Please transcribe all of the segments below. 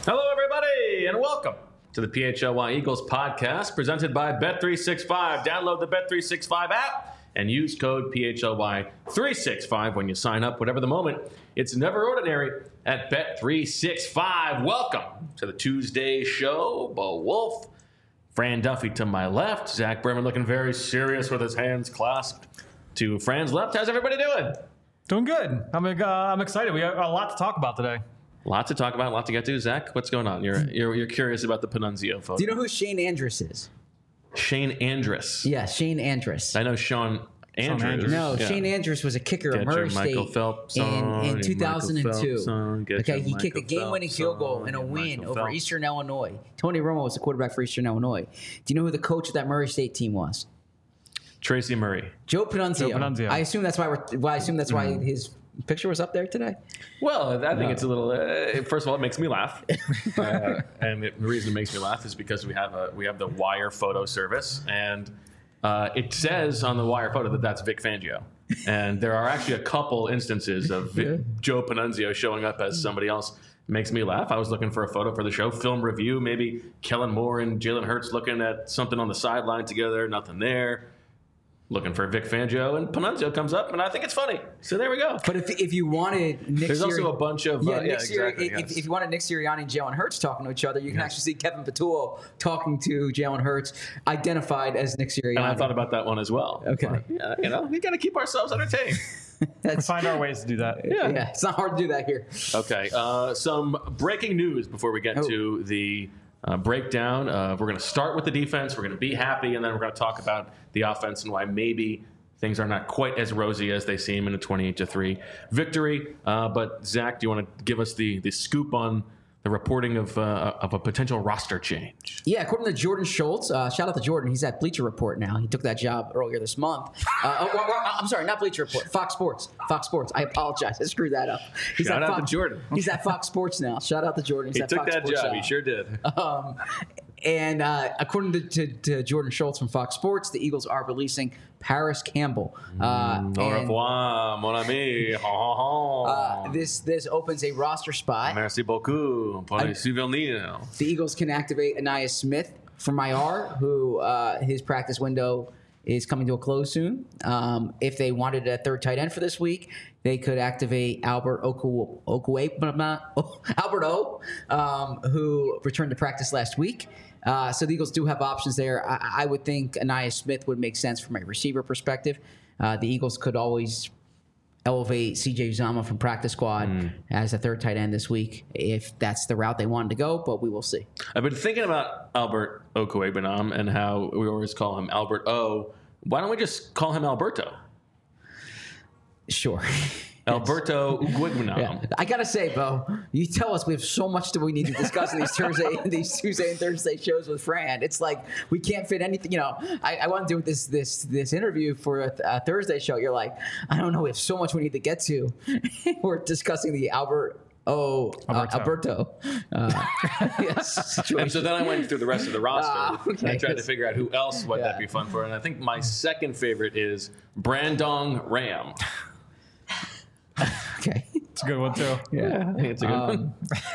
Hello, everybody, and welcome to the PHLY Eagles podcast presented by Bet365. Download the Bet365 app and use code PHLY365 when you sign up. Whatever the moment, it's never ordinary at Bet365. Welcome to the Tuesday show. Bo Wolf, Fran Duffy to my left, Zach Berman looking very serious with his hands clasped to Fran's left. How's everybody doing? Doing good. I'm excited. We have a lot to talk about today. Lots to talk about, a lot to get to. Zach, what's going on? You're curious about the Panunzio photo. Do you know who Shane Andrus is? Shane Andrus. Yeah, Shane Andrus. I know Sean Andrews. No, Yeah. Shane Andrus was a kicker at Murray Michael State Phelps in 2002. Okay, He kicked a game-winning field goal in a win over Eastern Illinois. Tony Romo was the quarterback for Eastern Illinois. Do you know who the coach of that Murray State team was? Tracy Murray. Joe Panunzio. I assume that's why his picture was up there today. Well, I think it's a little. First of all, it makes me laugh, and the reason it makes me laugh is because we have the Wire photo service, and it says on the Wire photo that that's Vic Fangio, and there are actually a couple instances of Joe Panunzio showing up as somebody else. Makes me laugh. I was looking for a photo for the show, film review, maybe Kellen Moore and Jalen Hurts looking at something on the sideline together. Nothing there. Looking for Vic Fangio, and Panunzio comes up, and I think it's funny. So there we go. But if you wanted Nick There's also a bunch of... exactly. If you wanted Nick Sirianni and Jalen Hurts talking to each other, you can actually see Kevin Patullo talking to Jalen Hurts, identified as Nick Sirianni. And I thought about that one as well. Okay. But, we got to keep ourselves entertained. We find our ways to do that. Yeah, it's not hard to do that here. Okay. Some breaking news before we get to the... breakdown. We're going to start with the defense. We're going to be happy, and then we're going to talk about the offense and why maybe things are not quite as rosy as they seem in a 28-3 victory. But Zach, do you want to give us the scoop on the reporting of a potential roster change? Yeah, according to Jordan Schultz, shout out to Jordan. He's at Bleacher Report now. He took that job earlier this month. I'm sorry, not Bleacher Report. Fox Sports. I apologize. I screwed that up. Shout out to Jordan. He's at Fox Sports now. Shout out to Jordan. He took that job. He sure did. And according to Jordan Schultz from Fox Sports, the Eagles are releasing Paris Campbell. Au revoir, mon ami. This opens a roster spot. Merci beaucoup pour les souvenirs. The Eagles can activate Ainias Smith from IR, who his practice window is coming to a close soon. If they wanted a third tight end for this week, they could activate Albert O, who returned to practice last week. So the Eagles do have options there. I would think Ainias Smith would make sense from a receiver perspective. The Eagles could always elevate C.J. Uzomah from practice squad as a third tight end this week if that's the route they wanted to go, but we will see. I've been thinking about Albert Okwuegbunam and how we always call him Albert O. Why don't we just call him Alberto? Sure. Alberto Okwuegbunam. Yeah. I gotta say, Bo, you tell us we have so much that we need to discuss in these Tuesday and Thursday shows with Fran. It's like we can't fit anything. I want to do this interview for a Thursday show. You're like, I don't know. We have so much we need to get to. We're discussing the Alberto. Yes. And so then I went through the rest of the roster and I tried to Yes. figure out who else would that be fun for. And I think my second favorite is Brandon Ram. Okay. It's a good one, too. Yeah, I think it's a good one.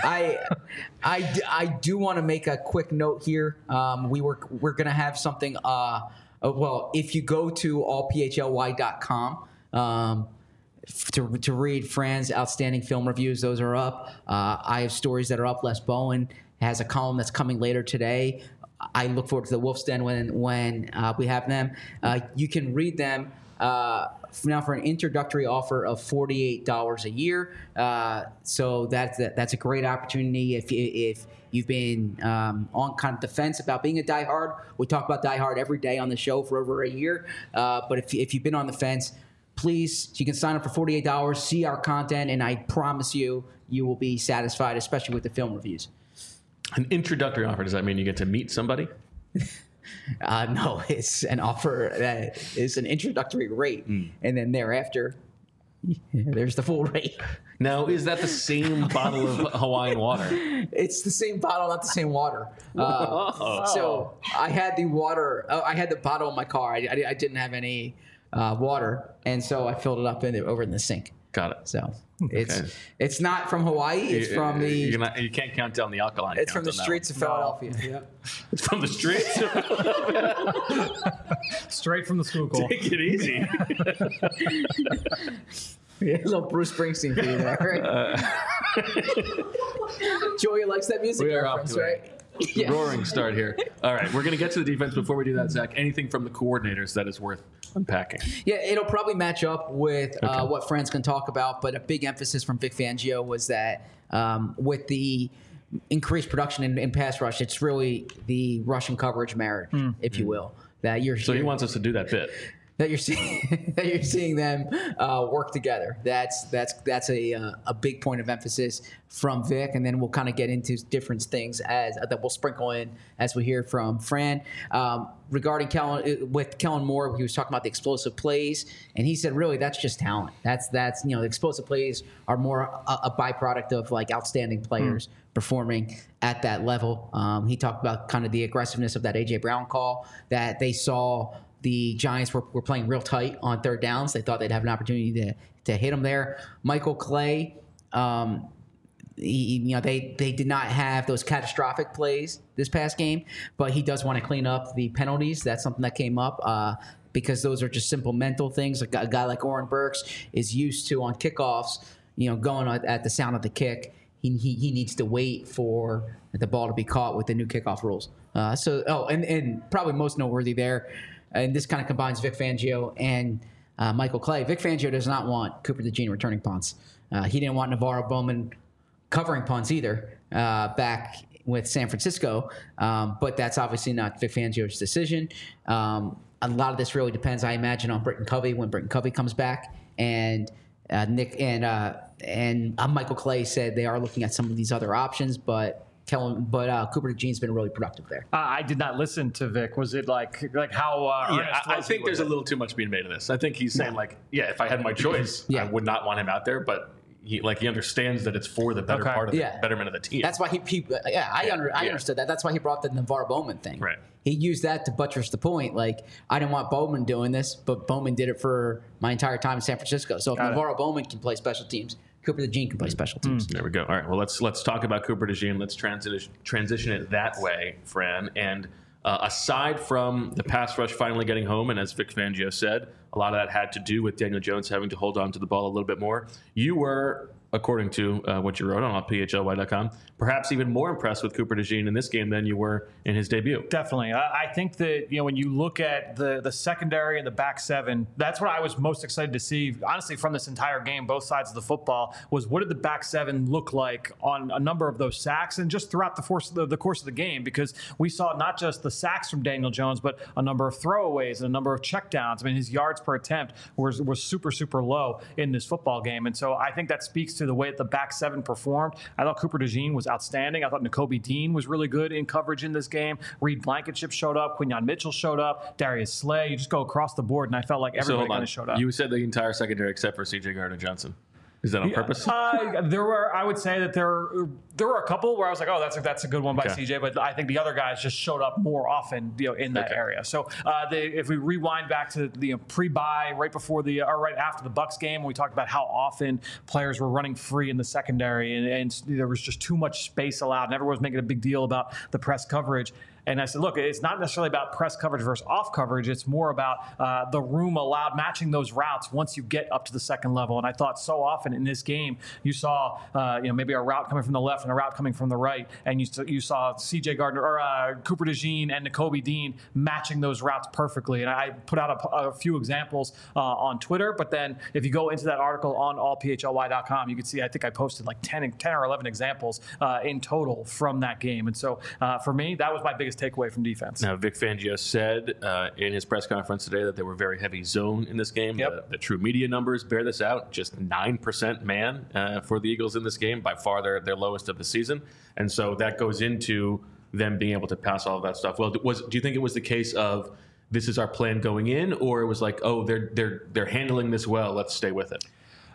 I do want to make a quick note here. We're going to have something. If you go to allphly.com to read Fran's outstanding film reviews, those are up. I have stories that are up. Les Bowen has a column that's coming later today. I look forward to the Wolf's Den when we have them. You can read them. Now for an introductory offer of $48 a year. So that's a great opportunity if you've been on kind of the fence about being a diehard. We talk about diehard every day on the show for over a year. But if you've been on the fence, please, you can sign up for $48, see our content, and I promise you will be satisfied, especially with the film reviews. An introductory offer, does that mean you get to meet somebody? No, it's an offer that is an introductory rate, and then thereafter, there's the full rate. Now, is that the same bottle of Hawaiian water? It's the same bottle, not the same water. So I had the water. I had the bottle in my car. I didn't have any water, and so I filled it up over in the sink. Got it. So it's not from Hawaii. It's from the. You can't count down the alkaline. It's from the streets of Philadelphia. Yeah. It's from the streets. Straight from the school. Take it easy. Yeah, a little Bruce Springsteen for you there. Joey likes that music. We are off to right? a roaring start here. All right, we're going to get to the defense. Before we do that, Zach, anything from the coordinators that is worth unpacking? Yeah, it'll probably match up with what Fran's can talk about, but a big emphasis from Vic Fangio was that with the increased production in pass rush, it's really the rushing coverage marriage, if you will. So he wants us to do that bit. That you're seeing them work together. That's a big point of emphasis from Vic, and then we'll kind of get into different things that we'll sprinkle in as we hear from Fran regarding Kellen Moore. He was talking about the explosive plays, and he said really that's just talent. That's the explosive plays are more a byproduct of like outstanding players performing at that level. He talked about kind of the aggressiveness of that A.J. Brown call that they saw. The Giants were playing real tight on third downs. They thought they'd have an opportunity to hit him there. Michael Clay, they did not have those catastrophic plays this past game, but he does want to clean up the penalties. That's something that came up because those are just simple mental things. A guy like Oren Burks is used to on kickoffs, going at the sound of the kick. He needs to wait for the ball to be caught with the new kickoff rules. And probably most noteworthy there. And this kind of combines Vic Fangio and Michael Clay. Vic Fangio does not want Cooper DeJean returning punts. He didn't want Navarro Bowman covering punts either back with San Francisco. But that's obviously not Vic Fangio's decision. A lot of this really depends, I imagine, on Britton Covey when Britton Covey comes back. And Nick and Michael Clay said they are looking at some of these other options, but Cooper DeJean's been really productive there. I did not listen to Vic. Was it like how? I think there's a little too much being made of this. I think he's saying if I had my choice, I would not want him out there, but he understands that it's for the better part of the betterment of the team. That's why I understood that. That's why he brought the Navarro Bowman thing. Right. He used that to buttress the point. Like, I didn't want Bowman doing this, but Bowman did it for my entire time in San Francisco. So if Navarro Bowman can play special teams, Cooper DeJean can play special teams. There we go. All right. Well, let's talk about Cooper DeJean. Let's transition it that way, Fran. And aside from the pass rush finally getting home, and as Vic Fangio said, a lot of that had to do with Daniel Jones having to hold on to the ball a little bit more. You were, according to what you wrote on PHLY.com, perhaps even more impressed with Cooper DeJean in this game than you were in his debut. Definitely. I think that, when you look at the secondary and the back seven, that's what I was most excited to see, honestly, from this entire game, both sides of the football, was what did the back seven look like on a number of those sacks and just throughout the course of the game, because we saw not just the sacks from Daniel Jones, but a number of throwaways and a number of checkdowns. I mean, his yards per attempt was super, super low in this football game. And so I think that speaks to the way that the back seven performed. I thought Cooper DeJean was outstanding. I thought Nakobe Dean was really good in coverage in this game. Reed Blankenship showed up. Quinyon Mitchell showed up. Darius Slay. You just go across the board, and I felt like everybody kind of showed up. You said the entire secondary except for C.J. Gardner-Johnson. Is that on purpose? I would say that there were a couple where I was like, oh, that's a good one by CJ, but I think the other guys just showed up more often, in that area. So if we rewind back to the pre-bye right after the Bucs game, we talked about how often players were running free in the secondary, and there was just too much space allowed, and everyone was making a big deal about the press coverage. And I said, look, it's not necessarily about press coverage versus off coverage. It's more about the room allowed, matching those routes once you get up to the second level. And I thought so often in this game, you saw maybe a route coming from the left and a route coming from the right, and you saw C.J. Gardner or Cooper DeJean and Nakobe Dean matching those routes perfectly. And I put out a few examples on Twitter. But then if you go into that article on allphly.com, you can see I think I posted like 10 or 11 examples in total from that game. And so for me, that was my biggest takeaway from defense. Now, Vic Fangio said in his press conference today that they were very heavy zone in this game. Yep. The true media numbers bear this out. Just 9% man for the Eagles in this game, by far their lowest of the season. And so that goes into them being able to pass all of that stuff. Well, do you think it was the case of this is our plan going in, or it was like, oh, they're handling this well, let's stay with it?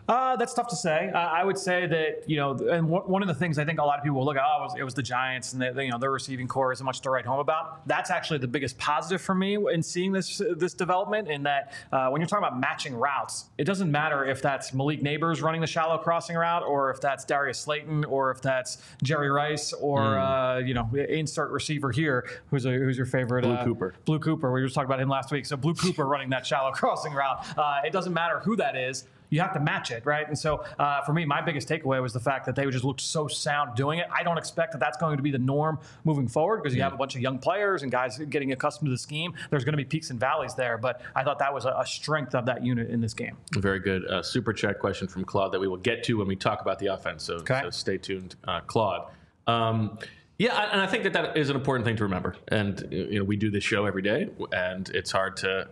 That's tough to say. I would say that, and one of the things I think a lot of people will look at, it was the Giants and their receiving core isn't much to write home about. That's actually the biggest positive for me in seeing this development, in that when you're talking about matching routes, it doesn't matter if that's Malik Neighbors running the shallow crossing route, or if that's Darius Slayton, or if that's Jerry Rice, or insert receiver here, who's your favorite? Blue Cooper. We were just talking about him last week. So Blue Cooper running that shallow crossing route. It doesn't matter who that is. You have to match it, right? And so for me, my biggest takeaway was the fact that they just looked so sound doing it. I don't expect that that's going to be the norm moving forward, because you have a bunch of young players and guys getting accustomed to the scheme. There's going to be peaks and valleys there, but I thought that was a strength of that unit in this game. Very good. Super chat question from Claude that we will get to when we talk about the offense, so stay tuned, Claude. Yeah, and I think that is an important thing to remember. And we do this show every day, and it's hard to...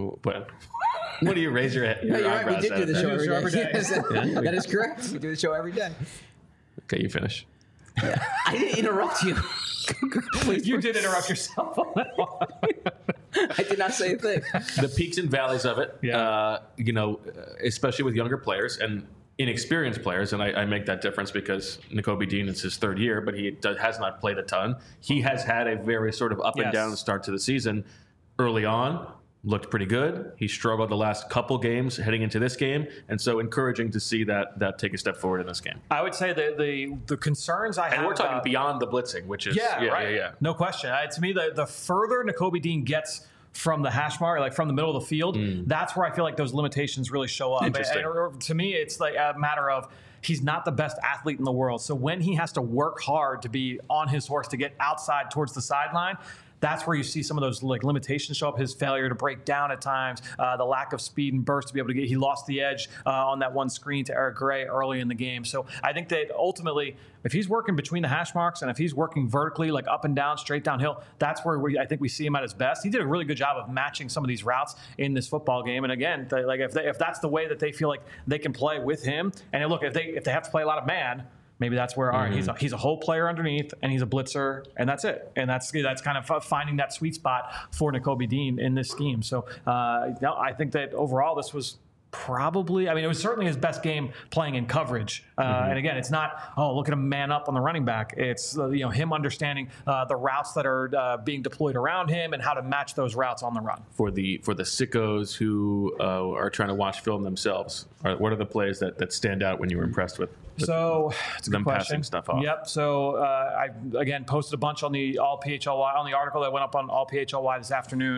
What do you raise your eyebrows at? Right. We did do the show every day. Yes, that is correct. We do the show every day. Okay, you finish. Yeah. I didn't interrupt you. Please, you did interrupt yourself on that one. I did not say a thing. The peaks and valleys of it, especially with younger players and inexperienced players, and I make that difference because Nakobe Dean is his third year, but he has not played a ton. He has had a very sort of up and down start to the season. Early on, looked pretty good. He struggled the last couple games heading into this game, and so encouraging to see that take a step forward in this game. I would say that the concerns I have, and we're talking beyond the blitzing, which is no question. To me, the further Nakobe Dean gets from the hash mark, like from the middle of the field, that's where I feel like those limitations really show up. And to me, it's like a matter of, he's not the best athlete in the world. So when he has to work hard to be on his horse to get outside towards the sideline, that's where you see some of those limitations show up. His failure to break down at times, the lack of speed and burst to be able to get. He lost the edge on that one screen to Eric Gray early in the game. So I think that ultimately, if he's working between the hash marks and if he's working vertically, like up and down, straight downhill, that's where I think we see him at his best. He did a really good job of matching some of these routes in this football game. And again, if that's the way that they feel like they can play with him, and look, if they have to play a lot of man, maybe that's where, all right, he's a whole player underneath, and he's a blitzer, and that's it. And that's kind of finding that sweet spot for Nakobe Dean in this scheme. So I think that overall this was probably, it was certainly his best game playing in coverage. And again, it's not, look at him man up on the running back. It's him understanding the routes that are being deployed around him and how to match those routes on the run. For the sickos who are trying to watch film themselves, what are the plays that stand out when you were impressed with? So it's a good question. Passing stuff off. Yep. So I again posted a bunch on the All PHLY on the article that went up on All PHLY this afternoon.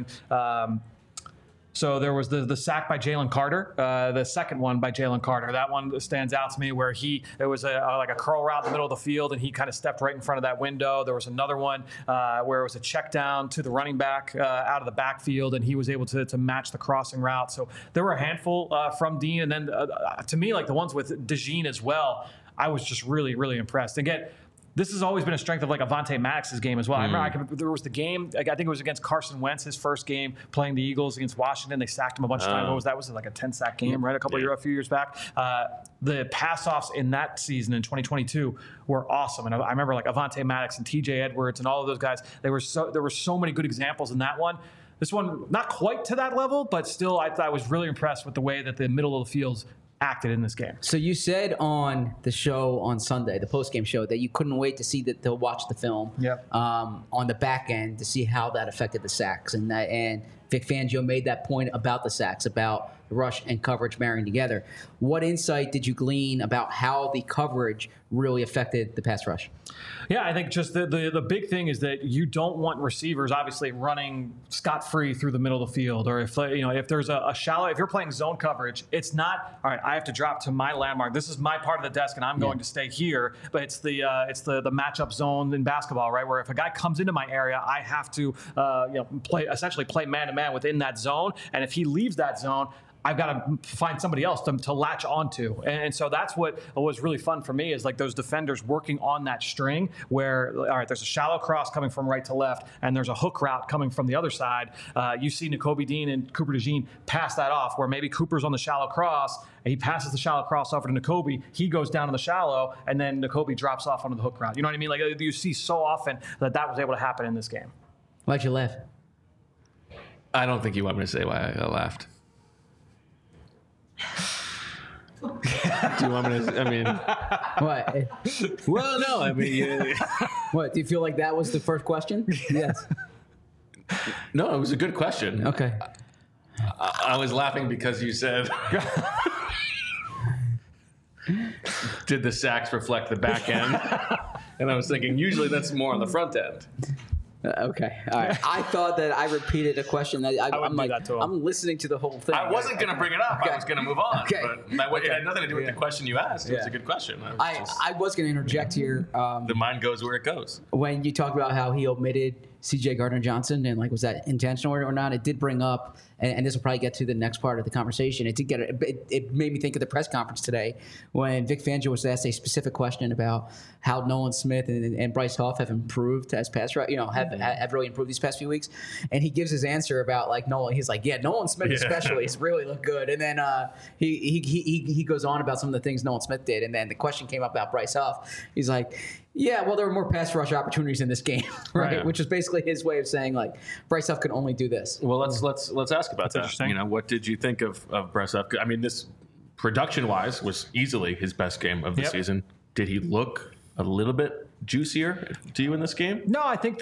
So there was the sack by Jalen Carter, the second one by Jalen Carter. That one stands out to me, where it was like a curl route in the middle of the field, and he kind of stepped right in front of that window. There was another one where it was a check down to the running back out of the backfield, and he was able to match the crossing route. So there were a handful from Dean, and then to me, like the ones with DeJean as well, I was just really, really impressed. Again, this has always been a strength of like Avonte Maddox's game as well. I remember there was the game, I think it was against Carson Wentz, his first game playing the Eagles against Washington. They sacked him a bunch of times. What was that? Was it like a 10-sack game, right? A few years back. The pass-offs in that season in 2022 were awesome. And I remember like Avonte Maddox and TJ Edwards and all of those guys. There were so many good examples in that one. This one, not quite to that level, but still I was really impressed with the way that the middle of the field acted in this game. So you said on the show on Sunday, the post-game show, that you couldn't wait to watch the film on the back end to see how that affected the sacks. And Vic Fangio made that point about the sacks, about rush and coverage marrying together. What insight did you glean about how the coverage really affected the pass rush? Yeah, I think just the big thing is that you don't want receivers obviously running scot-free through the middle of the field, or if there's a shallow, if you're playing zone coverage, it's not, all right, I have to drop to my landmark. This is my part of the desk and I'm going to stay here, but it's the matchup zone in basketball, right? Where if a guy comes into my area, I have to essentially play man-to-man within that zone, and if he leaves that zone, I've got to find somebody else to latch onto. And so that's what was really fun for me, is like those defenders working on that string where, all right, there's a shallow cross coming from right to left, and there's a hook route coming from the other side. You see Nakobe Dean and Cooper DeJean pass that off, where maybe Cooper's on the shallow cross, and he passes the shallow cross over to Nakobe. He goes down in the shallow, and then Nakobe drops off onto the hook route. You know what I mean? Like you see so often that was able to happen in this game. Why'd you laugh? I don't think you want me to say why I laughed. Do you want me to? I mean, What? well, no. I mean, What? Do you feel like that was the first question? Yes. no. It was a good question. Okay. I was laughing because you said, "Did the sacks reflect the back end?" And I was thinking, usually that's more on the front end. Okay. All right. I thought that I repeated a question that I'm do like, that to him. I'm listening to the whole thing. I wasn't going to bring it up. Okay. I was going to move on. Okay. But it had nothing to do with the question you asked. It was Yeah. a good question. I was going to interject here. The mind goes where it goes. When you talked about how he omitted C.J. Gardner-Johnson and like was that intentional or not, it did bring up, and this will probably get to the next part of the conversation. It made me think of the press conference today when Vic Fangio was asked a specific question about how Nolan Smith and Bryce Huff have improved as pass rush, have really improved these past few weeks, and he gives his answer about like Nolan. He's like, yeah, Nolan Smith especially has really looked good, and then he goes on about some of the things Nolan Smith did, and then the question came up about Bryce Huff. He's like, yeah, well, there were more pass rush opportunities in this game, right? Right. Which is basically his way of saying like Bryce Huff can only do this. Well, let's ask about that. interesting. What did you think of Bryce Huff? I mean, this production-wise was easily his best game of the season. Did he look a little bit juicier to you in this game? No, I think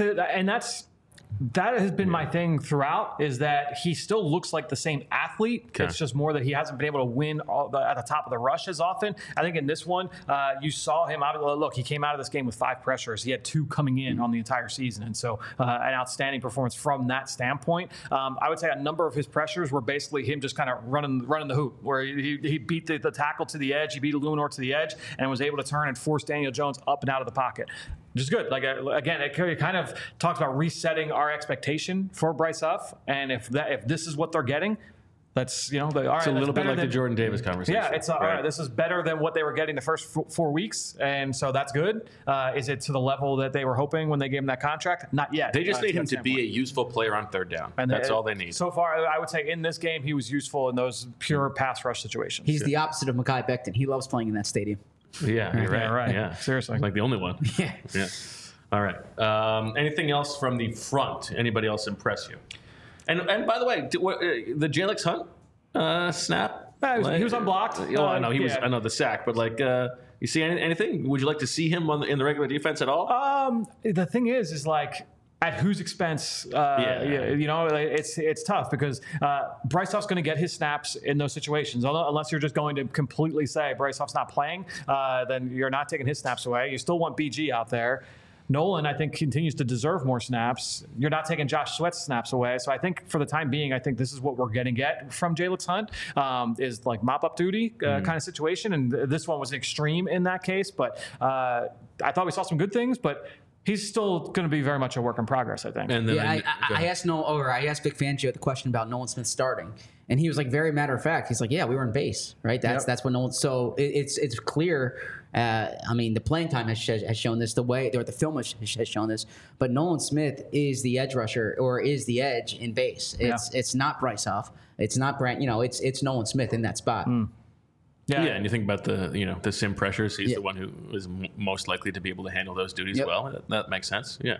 that has been my thing throughout, is that he still looks like the same athlete. Okay. It's just more that he hasn't been able to win at the top of the rush as often. I think in this one, you saw him. Look, he came out of this game with 5 pressures. He had 2 coming in on the entire season. And so an outstanding performance from that standpoint. I would say a number of his pressures were basically him just kind of running the hoop, where he beat the tackle to the edge. He beat Luminor to the edge and was able to turn and force Daniel Jones up and out of the pocket. Just good. Like, again, it kind of talks about resetting our expectation for Bryce Huff, and if this is what they're getting, that's all right. It's a little bit like the Jordan Davis conversation. Yeah, it's all right. This is better than what they were getting the first 4 weeks, and so that's good. Is it to the level that they were hoping when they gave him that contract? Not yet. They just need him to be a standpoint. useful player on third down. And that's all they need. So far, I would say in this game, he was useful in those pure pass rush situations. He's the opposite of Mekhi Becton. He loves playing in that stadium. Yeah, you're right. Yeah, right. Yeah, Seriously. like the only one. Yeah. Yeah. All right. Anything else from the front? Anybody else impress you? And by the way, the Jalix Hunt snap? He was unblocked. I know he was. Yeah. I know the sack, but like, you see anything? Would you like to see him in the regular defense at all? The thing is like, at whose expense? It's tough because Bryce Huff's going to get his snaps in those situations. Unless you're just going to completely say Bryce Huff's not playing, then you're not taking his snaps away. You still want BG out there. Nolan, I think, continues to deserve more snaps. You're not taking Josh Sweat's snaps away. So I think for the time being, I think this is what we're going to get from Jalix Hunt, is like mop-up duty kind of situation. And this one was extreme in that case. But I thought we saw some good things, but he's still going to be very much a work in progress, I think. And then I asked Vic Fangio the question about Nolan Smith starting, and he was like very matter of fact. He's like, yeah, we were in base, right? That's what Nolan. So it's clear. I mean, the playing time has shown this. The film has shown this. But Nolan Smith is the edge rusher, or is the edge in base. It's not Bryce Huff. It's not Brent. It's Nolan Smith in that spot. Yeah, and you think about the sim pressures. He's the one who is most likely to be able to handle those duties well. That makes sense. Yeah.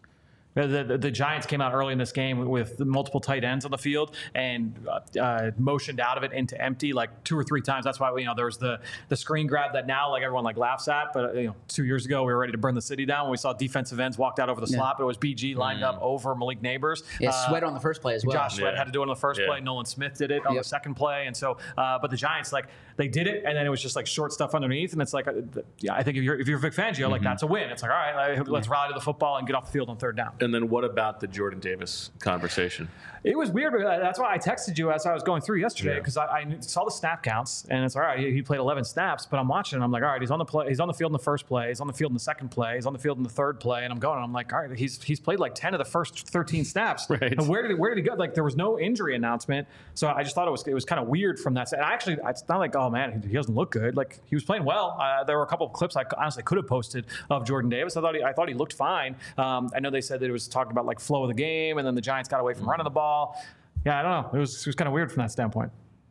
The Giants came out early in this game with multiple tight ends on the field and motioned out of it into empty like 2 or 3 times. That's why there was the screen grab that now like everyone like laughs at. But 2 years ago we were ready to burn the city down when we saw defensive ends walked out over the slot. But it was BG lined up over Malik Neighbors. Yeah, Sweat on the first play as well. Josh Sweat had to do it on the first play. Nolan Smith did it on the second play. And so, but the Giants they did it, and then it was just like short stuff underneath. And it's like, I think if you're Vic Fangio, like that's a win. It's like, all right, let's rally to the football and get off the field on third down. And then what about the Jordan Davis conversation? It was weird. That's why I texted you as I was going through yesterday, because I saw the snap counts, and it's all right. He played 11 snaps, but I'm watching, and I'm like, all right, he's on the field in the first play, he's on the field in the second play, he's on the field in the third play, and I'm like, all right, he's played like 10 of the first 13 snaps. Right. And where did he go? Like there was no injury announcement, so I just thought it was kind of weird from that. And actually, it's not like, oh man, he doesn't look good. Like he was playing well. There were a couple of clips I honestly could have posted of Jordan Davis. I thought he looked fine. I know they said that it was talking about like flow of the game, and then the Giants got away from running the ball. Yeah, I don't know. It was kind of weird from that standpoint.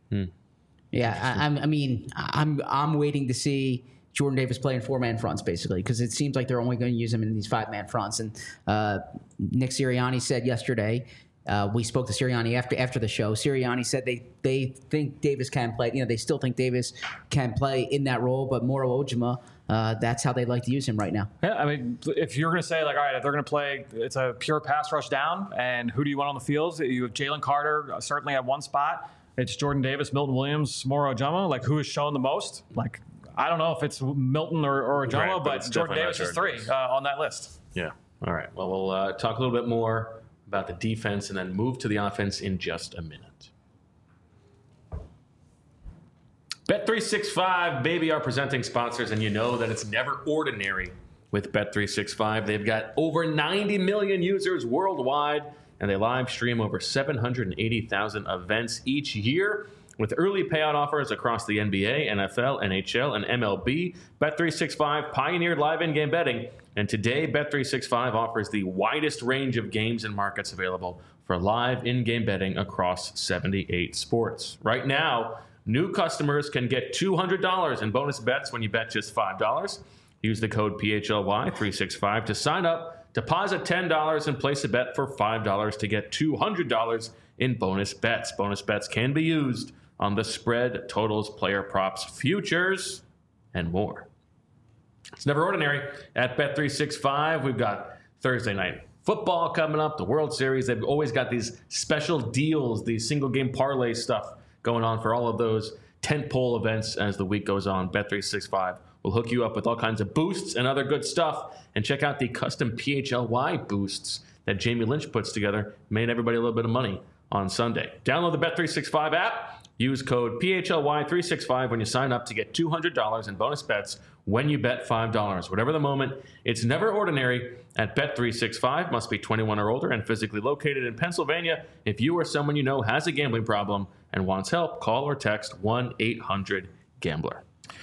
Yeah, I'm waiting to see Jordan Davis play in 4-man fronts, basically, because it seems like they're only going to use him in these 5-man fronts. And Nick Sirianni said yesterday We spoke to Sirianni after the show. Sirianni said they think Davis can play. They still think Davis can play in that role, but Moro Ojima, that's how they like to use him right now. Yeah, I mean, if you're going to say, like, all right, if they're going to play, it's a pure pass rush down, and who do you want on the field? You have Jalen Carter certainly at one spot. It's Jordan Davis, Milton Williams, Moro Ojima. Like, who has shown the most? Like, I don't know if it's Milton or Ojima, Right, but but Jordan Davis is 3 on that list. Yeah. All right. Well, we'll talk a little bit more about the defense and then move to the offense in just a minute. Bet365, baby, are presenting sponsors, and you know that it's never ordinary with Bet365. They've got over 90 million users worldwide, and they live stream over 780,000 events each year. With early payout offers across the NBA, NFL, NHL, and MLB, Bet365 pioneered live in-game betting, and today Bet365 offers the widest range of games and markets available for live in-game betting across 78 sports. Right now, new customers can get $200 in bonus bets when you bet just $5. Use the code PHLY365 to sign up, deposit $10, and place a bet for $5 to get $200 in bonus bets. Bonus bets can be used on the spread, totals, player props, futures, and more. It's never ordinary at Bet365. We've got Thursday night football coming up, the World Series. They've always got these special deals, these single game parlay stuff going on for all of those tentpole events as the week goes on. Bet365 will hook you up with all kinds of boosts and other good stuff. And check out the custom PHLY boosts that Jamie Lynch puts together. Made everybody a little bit of money on Sunday. Download the Bet365 app. Use code PHLY365 when you sign up to get $200 in bonus bets when you bet $5. Whatever the moment, it's never ordinary at Bet365. Must be 21 or older and physically located in Pennsylvania. If you or someone you know has a gambling problem and wants help, call or text 1-800-GAMBLER.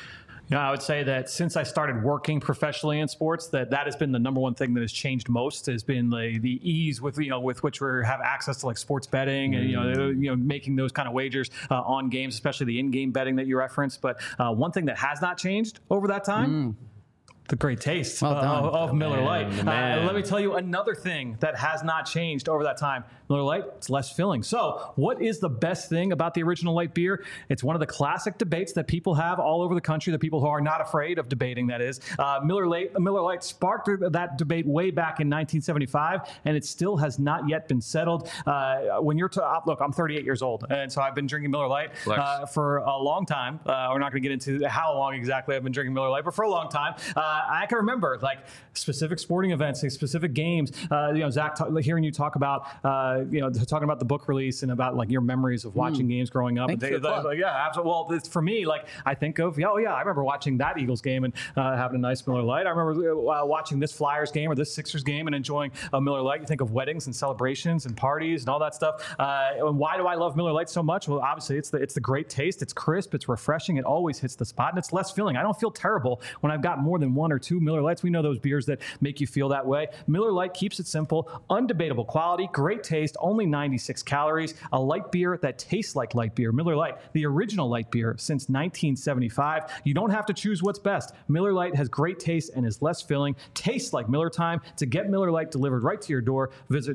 I would say that since I started working professionally in sports, that has been the number one thing that has changed most. Has been the ease with which we have access to like sports betting and making those kind of wagers on games, especially the in-game betting that you referenced. But one thing that has not changed over that time. The great taste of Miller Lite. Let me tell you another thing that has not changed over that time. Miller Lite, it's less filling. So what is the best thing about the original light beer? It's one of the classic debates that people have all over the country, the people who are not afraid of debating, that is. Miller Lite sparked that debate way back in 1975, and it still has not yet been settled. When you're look, I'm 38 years old, and so I've been drinking Miller Lite for a long time. We're not going to get into how long exactly I've been drinking Miller Lite, but for a long time. I can remember like specific sporting events, specific games. Zach, hearing you talk about, talking about the book release and about like your memories of watching games growing up. Yeah, absolutely. Well, for me, like I think of, I remember watching that Eagles game and having a nice Miller Lite. I remember watching this Flyers game or this Sixers game and enjoying a Miller Lite. You think of weddings and celebrations and parties and all that stuff. And why do I love Miller Lite so much? Well, obviously it's the great taste. It's crisp. It's refreshing. It always hits the spot, and it's less filling. I don't feel terrible when I've got more than one or two Miller Lights. We know those beers that make you feel that way. Miller Lite keeps it simple, undebatable quality, great taste, only 96 calories, a light beer that tastes like light beer. Miller Lite, the original light beer since 1975. You don't have to choose what's best. Miller Lite has great taste and is less filling. Tastes like Miller time. To get Miller Lite delivered right to your door, visit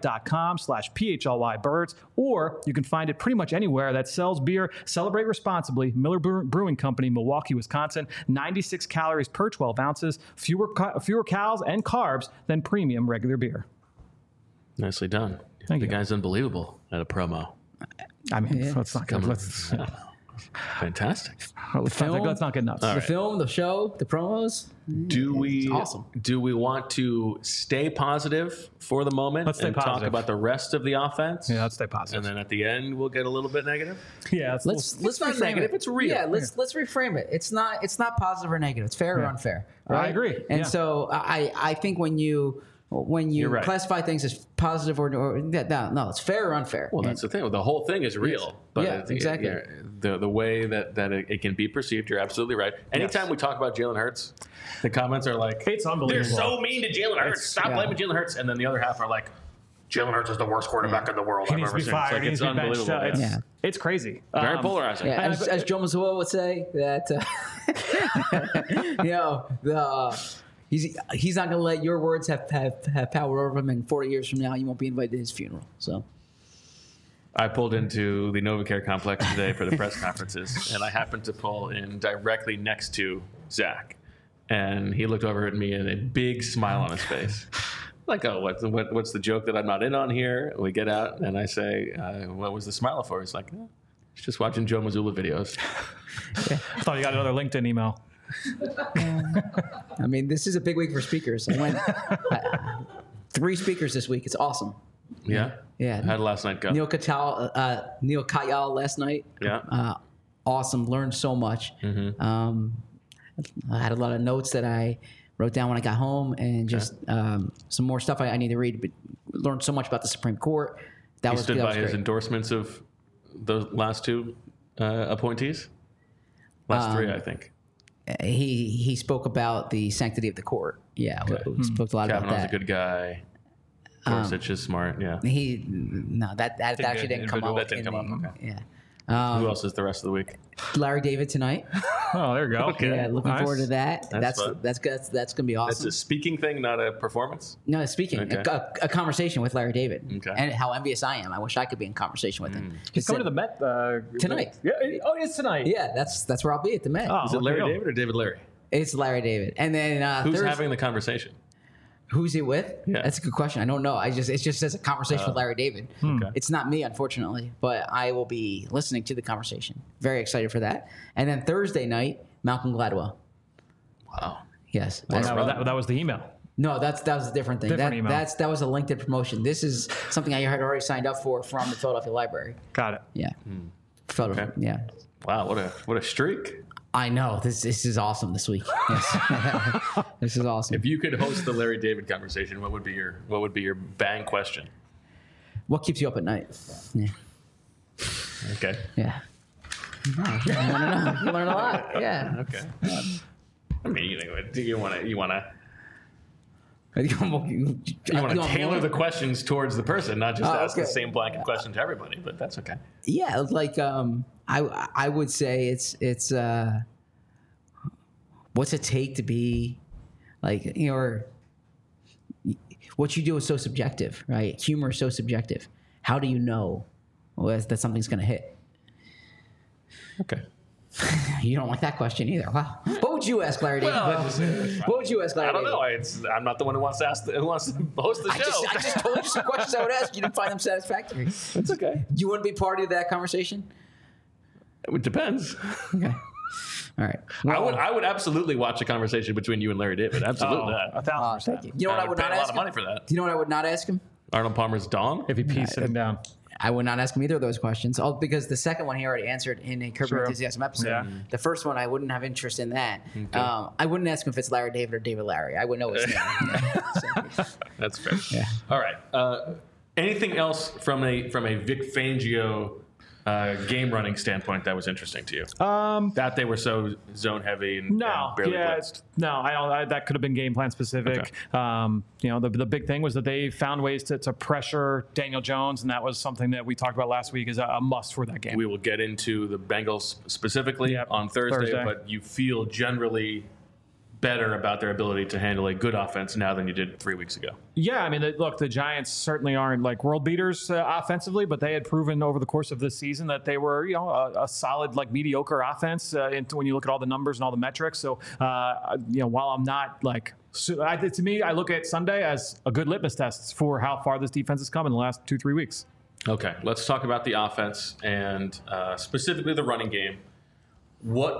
MillerLite.com/PHLYBirds, or you can find it pretty much anywhere that sells beer. Celebrate responsibly. Miller Brewing Company, Milwaukee, Wisconsin. 96 calories per 12 ounces. Fewer calories and carbs than premium regular beer. Nicely done. Thank you. The guy's unbelievable at a promo. I mean, let's not go. Fantastic. Let's not get nuts. The film, the show, the promos. Awesome. Do we want to stay positive for the moment Let's stay positive. Talk about the rest of the offense? Yeah, let's stay positive. And then at the end, we'll get a little bit negative. Yeah, let's not reframe negative. it. It's real. Yeah, let's reframe it. It's not positive or negative. It's fair or unfair. Right? I agree. And so I think when you right. classify things as positive or no, it's fair or unfair. Well, that's the thing. The whole thing is real. But exactly. The way that it can be perceived, you're absolutely right. Anytime we talk about Jalen Hurts, the comments are like, it's unbelievable. They're so mean to Jalen Hurts. Stop blaming Jalen Hurts. And then the other half are like, Jalen Hurts is the worst quarterback in the world I've ever seen. It's unbelievable. It's crazy. Very polarizing. Yeah, as Joe Mazzulla would say, that He's not going to let your words have power over him. And 40 years from now, you won't be invited to his funeral. So. I pulled into the NovaCare complex today for the press conferences, and I happened to pull in directly next to Zach. And he looked over at me and a big smile on his face. Like, oh, what's the joke that I'm not in on here? We get out, and I say, what was the smile for? He's like, he's just watching Joe Mazzulla videos. I thought you got another LinkedIn email. I mean, this is a big week for speakers. I went 3 speakers this week. It's awesome. Yeah? Yeah. How did last night go? Neil Kayal last night. Yeah. Awesome. Learned so much. Mm-hmm. I had a lot of notes that I wrote down when I got home, and just some more stuff I need to read. But learned so much about the Supreme Court. He stood by his endorsements of the last 2 appointees? Last 3, I think. He spoke about the sanctity of the court. Yeah, we spoke a lot about that. Kavanaugh's a good guy. Gorsuch is smart. Yeah. That actually didn't come up. That didn't come up. Okay. Yeah. Who else is the rest of the week? Larry David tonight. Oh, there you go. Okay. Yeah, looking Nice. forward to that. That's That's gonna be awesome. That's a speaking thing, not a performance? No, speaking Okay. a conversation with Larry David, Okay. and how envious I am. I wish I could be in conversation with him. He's coming to the Met Tonight. Yeah. Oh, it's tonight. Yeah, that's where I'll be at the Met. Oh, Is it there Larry you go. David or David Larry? It's Larry David, and then Who's Thursday, having the conversation? who's he with? Yeah. That's a good question. I don't know. It just says a conversation with Larry David. Okay. It's not me, unfortunately, but I will be listening to the conversation. Very excited for that. And then Thursday night, Malcolm Gladwell. Wow. Yes. That was the email. No, that was a different thing. Different email. That was a LinkedIn promotion. This is something I had already signed up for from the Philadelphia Library. Got it. Yeah. Okay. Yeah. Wow, what a streak. I know. This is awesome this week. Yes. This is awesome. If you could host the Larry David conversation, what would be your bang question? What keeps you up at night? Yeah. Okay. Yeah. You want to know. You learn a lot. Yeah. Okay. I mean, you want to tailor the questions towards the person, not just ask the same blanket question to everybody. But that's okay. Yeah, like I would say it's what's it take to be like, you know, what you do is so subjective, right? Humor is so subjective. How do you know that something's going to hit? Okay. You don't like that question either. Wow. What would you ask Larry David? What would you ask Larry I don't David? know. I'm not the one who wants to host the show. I just told you some questions I would ask. You didn't find them satisfactory. That's okay. You wouldn't be party to that conversation? It depends. Okay. All right. I would absolutely watch a conversation between you and Larry David. Absolutely. 1,000%. Thank you. You know what I would pay not a lot ask of him? money for that. Do you know what I would not ask him? Arnold Palmer's dong? If he pees sitting down. I would not ask him either of those questions, because the second one he already answered in a Curb Your Enthusiasm episode. Yeah. The first one I wouldn't have interest in that. I wouldn't ask him if it's Larry David or David Larry. I would know his name. So, That's fair. yeah. All right. Anything else from a Vic Fangio game running standpoint that was interesting to you? That they were so zone heavy and barely blitzed. That could have been game plan specific. Okay. The big thing was that they found ways to pressure Daniel Jones, and that was something that we talked about last week as a must for that game. We will get into the Bengals specifically on Thursday, but you feel generally better about their ability to handle a good offense now than you did 3 weeks ago. Yeah, I mean, look, the Giants certainly aren't like world beaters offensively, but they had proven over the course of this season that they were, a solid, like mediocre offense when you look at all the numbers and all the metrics. So, while I'm not like, to me, I look at Sunday as a good litmus test for how far this defense has come in the last 2-3 weeks. Okay, let's talk about the offense and specifically the running game. What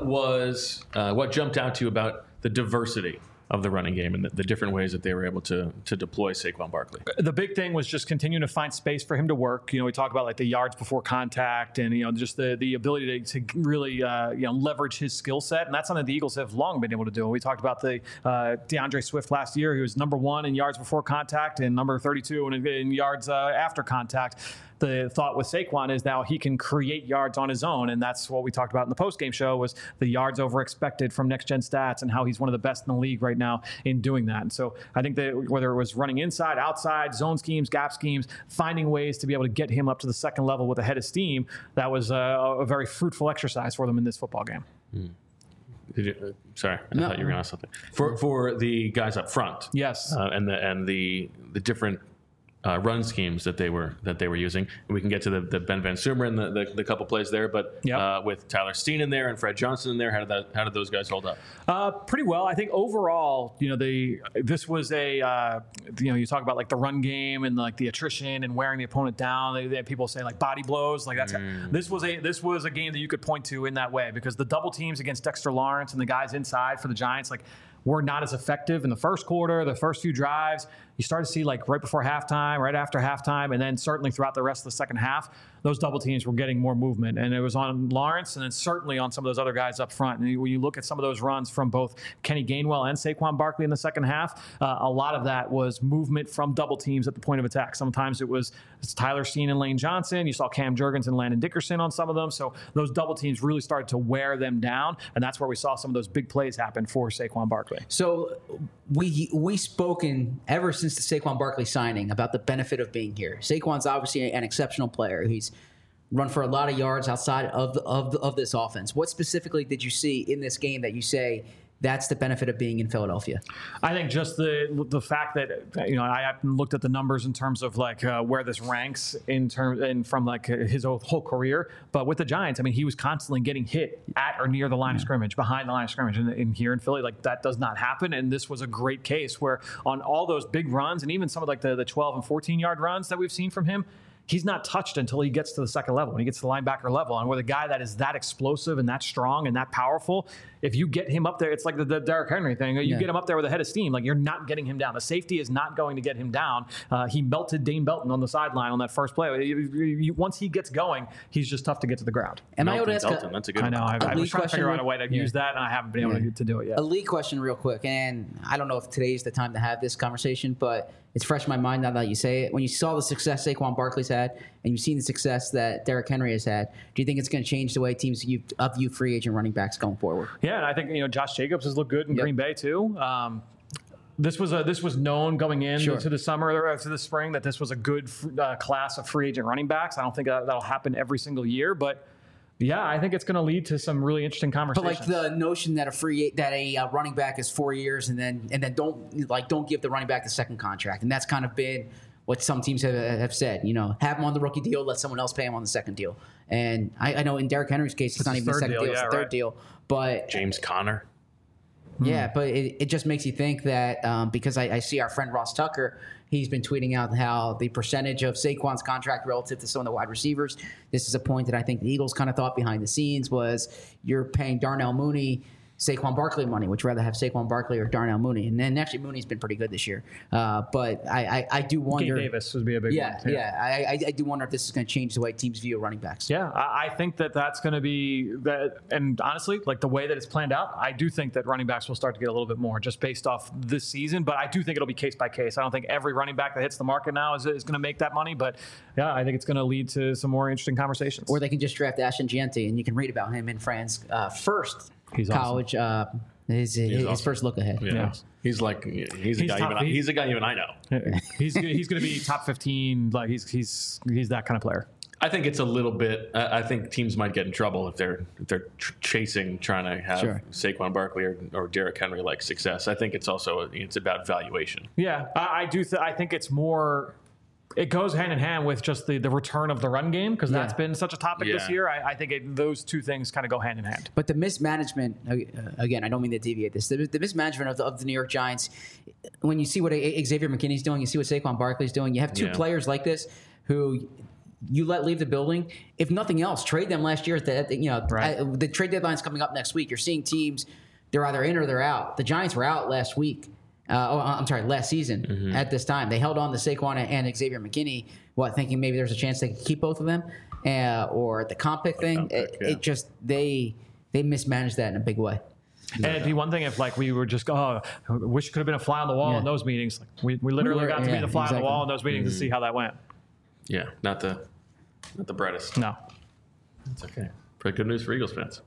jumped out to you about the diversity of the running game and the different ways that they were able to deploy Saquon Barkley? The big thing was just continuing to find space for him to work. We talk about like the yards before contact and, just the ability to really, leverage his skill set. And that's something the Eagles have long been able to do. We talked about the DeAndre Swift last year. He was number 1 in yards before contact and number 32 in yards after contact. The thought with Saquon is now he can create yards on his own, and that's what we talked about in the postgame show was the yards over expected from Next Gen Stats and how he's one of the best in the league right now in doing that. And so I think that whether it was running inside, outside, zone schemes, gap schemes, finding ways to be able to get him up to the second level with a head of steam, that was a very fruitful exercise for them in this football game. Sorry, I thought you were going to ask something. For the guys up front, Yes. and the different run schemes that they were using. And we can get to the Ben Van Sumeren and the couple plays there, but with Tyler Steen in there and Fred Johnson in there, how did those guys hold up? Pretty well. I think overall, this was a you talk about like the run game and like the attrition and wearing the opponent down. They people say like body blows, like that's this was a game that you could point to in that way, because the double teams against Dexter Lawrence and the guys inside for the Giants were not as effective in the first quarter, the first few drives. You start to see like right before halftime, right after halftime, and then certainly throughout the rest of the second half, those double teams were getting more movement. And it was on Lawrence and then certainly on some of those other guys up front. And when you look at some of those runs from both Kenny Gainwell and Saquon Barkley in the second half, a lot of that was movement from double teams at the point of attack. Sometimes it was Tyler Steen and Lane Johnson. You saw Cam Jurgens and Landon Dickerson on some of them. So those double teams really started to wear them down. And that's where we saw some of those big plays happen for Saquon Barkley. So we spoken ever since the Saquon Barkley signing about the benefit of being here. Saquon's obviously an exceptional player. He's run for a lot of yards outside of this offense. What specifically did you see in this game that you say that's the benefit of being in Philadelphia? I think just the fact that I haven't looked at the numbers in terms of like where this ranks from like his whole career, but with the Giants, I mean, he was constantly getting hit at or near the line of scrimmage, behind the line of scrimmage, and here in Philly, like that does not happen. And this was a great case where on all those big runs and even some of like the 12 and 14 yard runs that we've seen from him, he's not touched until he gets to the second level, when he gets to the linebacker level. And with a guy that is that explosive and that strong and that powerful, if you get him up there, it's like the Derrick Henry thing. You get him up there with a head of steam, like you're not getting him down. The safety is not going to get him down. He melted Dane Belton on the sideline on that first play. Once he gets going, he's just tough to get to the ground. Am I able to ask that's a good I know. I was trying to figure out a way to use that, and I haven't been able to do it yet. A league question real quick, and I don't know if today's the time to have this conversation, but it's fresh in my mind now that you say it. When you saw the success Saquon Barkley's had, and you've seen the success that Derrick Henry has had, do you think it's going to change the way teams view free agent running backs going forward? Yeah, and I think Josh Jacobs has looked good in Green Bay too. This was known going into the summer or to the spring that this was a good class of free agent running backs. I don't think that'll happen every single year, but yeah, I think it's going to lead to some really interesting conversations. But like the notion that a running back is 4 years and then don't give the running back the second contract, and that's kind of been what some teams have said. Have him on the rookie deal, let someone else pay him on the second deal. And I know in Derrick Henry's case, it's not even the second deal; it's the third deal. But James Conner. Yeah, but it just makes you think that because I see our friend Ross Tucker, he's been tweeting out how the percentage of Saquon's contract relative to some of the wide receivers. This is a point that I think the Eagles kind of thought behind the scenes was you're paying Darnell Mooney Saquon Barkley money. Would you rather have Saquon Barkley or Darnell Mooney? And then actually Mooney's been pretty good this year. But I do wonder. Gabe Davis would be a big one. Yeah. I do wonder if this is going to change the way teams view running backs. Yeah, I think that's going to be that. And honestly, like the way that it's planned out, I do think that running backs will start to get a little bit more just based off this season. But I do think it'll be case by case. I don't think every running back that hits the market now is going to make that money. But yeah, I think it's going to lead to some more interesting conversations. Or they can just draft Ashton Gianti, and you can read about him in Fran's first college. Awesome. His first look ahead. Yeah. He's a guy even I know. He's going to be top 15. Like he's that kind of player. I think it's a little bit. I think teams might get in trouble if they're trying to have Saquon Barkley or Derrick Henry like success. I think it's about valuation. Yeah, I do. I think it's more. It goes hand in hand with just the return of the run game because that's been such a topic this year. I think those two things kind of go hand in hand. But the mismanagement, again, I don't mean to deviate this. The mismanagement of the New York Giants, when you see what Xavier McKinney's doing, you see what Saquon Barkley's doing, you have two players like this who you let leave the building. If nothing else, trade them last year. The trade deadline's coming up next week. You're seeing teams, they're either in or they're out. The Giants were out last week. Last season at this time. They held on to Saquon and Xavier McKinney, thinking maybe there's a chance they could keep both of them, or the comp pick thing. They mismanaged that in a big way. And it'd be one thing if we were just wish it could have been a fly on the wall in those meetings. Like we literally got to be the fly on the wall in those meetings to see how that went. Yeah, not the brightest. No, it's okay. Pretty good news for Eagles fans.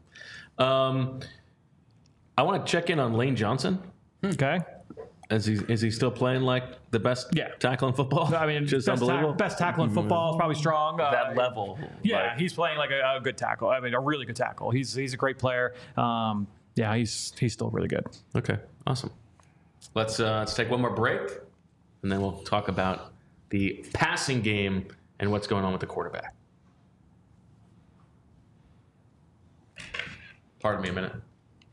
I want to check in on Lane Johnson. Okay. Is he still playing like the best tackle in football? I mean, just unbelievable. Best tackle in football is probably strong. That level. Yeah, he's playing like a good tackle. I mean, a really good tackle. He's a great player. Yeah, he's still really good. Okay, awesome. Let's take one more break, and then we'll talk about the passing game and what's going on with the quarterback. Pardon me a minute.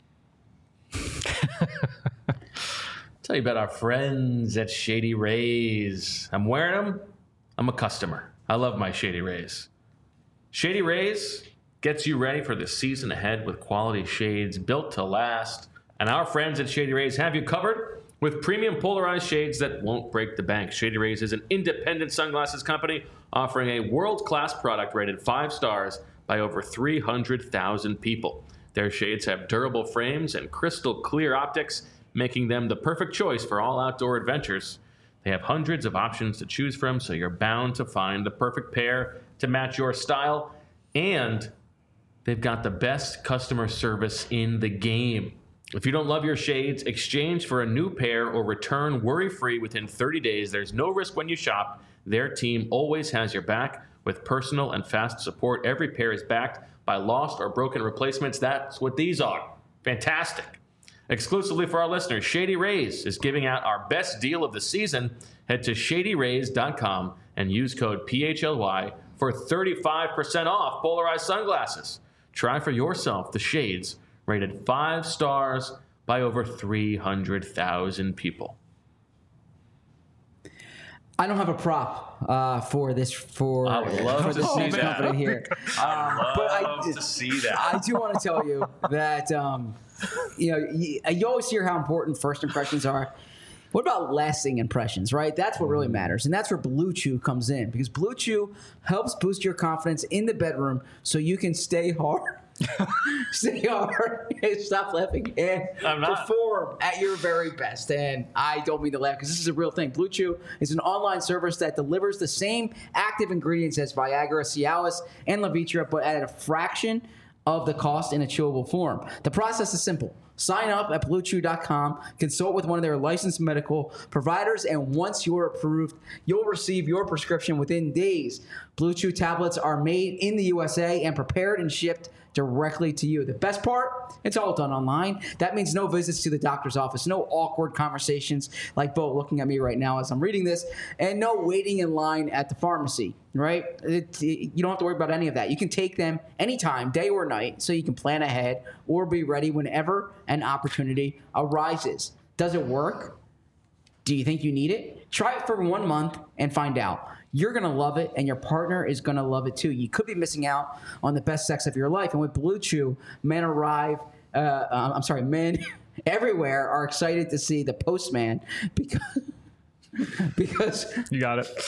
Tell you about our friends at Shady Rays. I'm wearing them. I'm a customer. I love my Shady Rays. Shady Rays gets you ready for the season ahead with quality shades built to last. And our friends at Shady Rays have you covered with premium polarized shades that won't break the bank. Shady Rays is an independent sunglasses company offering a world-class product rated 5 stars by over 300,000 people. Their shades have durable frames and crystal clear optics, making them the perfect choice for all outdoor adventures. They have hundreds of options to choose from, so you're bound to find the perfect pair to match your style. And they've got the best customer service in the game. If you don't love your shades, exchange for a new pair or return worry-free within 30 days. There's no risk when you shop. Their team always has your back with personal and fast support. Every pair is backed by lost or broken replacements. That's what these are. Fantastic. Exclusively for our listeners, Shady Rays is giving out our best deal of the season. Head to shadyrays.com and use code PHLY for 35% off polarized sunglasses. Try for yourself the shades rated 5 stars by over 300,000 people. I don't have a prop for this I would love to see that. company here. I love to see that. I do want to tell you that you always hear how important first impressions are. What about lasting impressions, right? That's what really matters. And that's where Blue Chew comes in, because Blue Chew helps boost your confidence in the bedroom so you can stay hard. Stay hard. Stop laughing. And perform at your very best. And I don't mean to laugh because this is a real thing. Blue Chew is an online service that delivers the same active ingredients as Viagra, Cialis, and Levitra, but at a fraction of the cost in a chewable form. The process is simple. Sign up at BlueChew.com, consult with one of their licensed medical providers, and once you're approved, you'll receive your prescription within days. Blue Chew tablets are made in the USA and prepared and shipped directly to you. The best part, it's all done online. That means no visits to the doctor's office, no awkward conversations like Bo looking at me right now as I'm reading this, and no waiting in line at the pharmacy, right? You don't have to worry about any of that. You can take them anytime, day or night, so you can plan ahead or be ready whenever an opportunity arises. Does it work? Do you think you need it? Try it for 1 month and find out. You're going to love it, and your partner is going to love it too. You could be missing out on the best sex of your life. And with Blue Chew, men everywhere are excited to see the postman because you got it.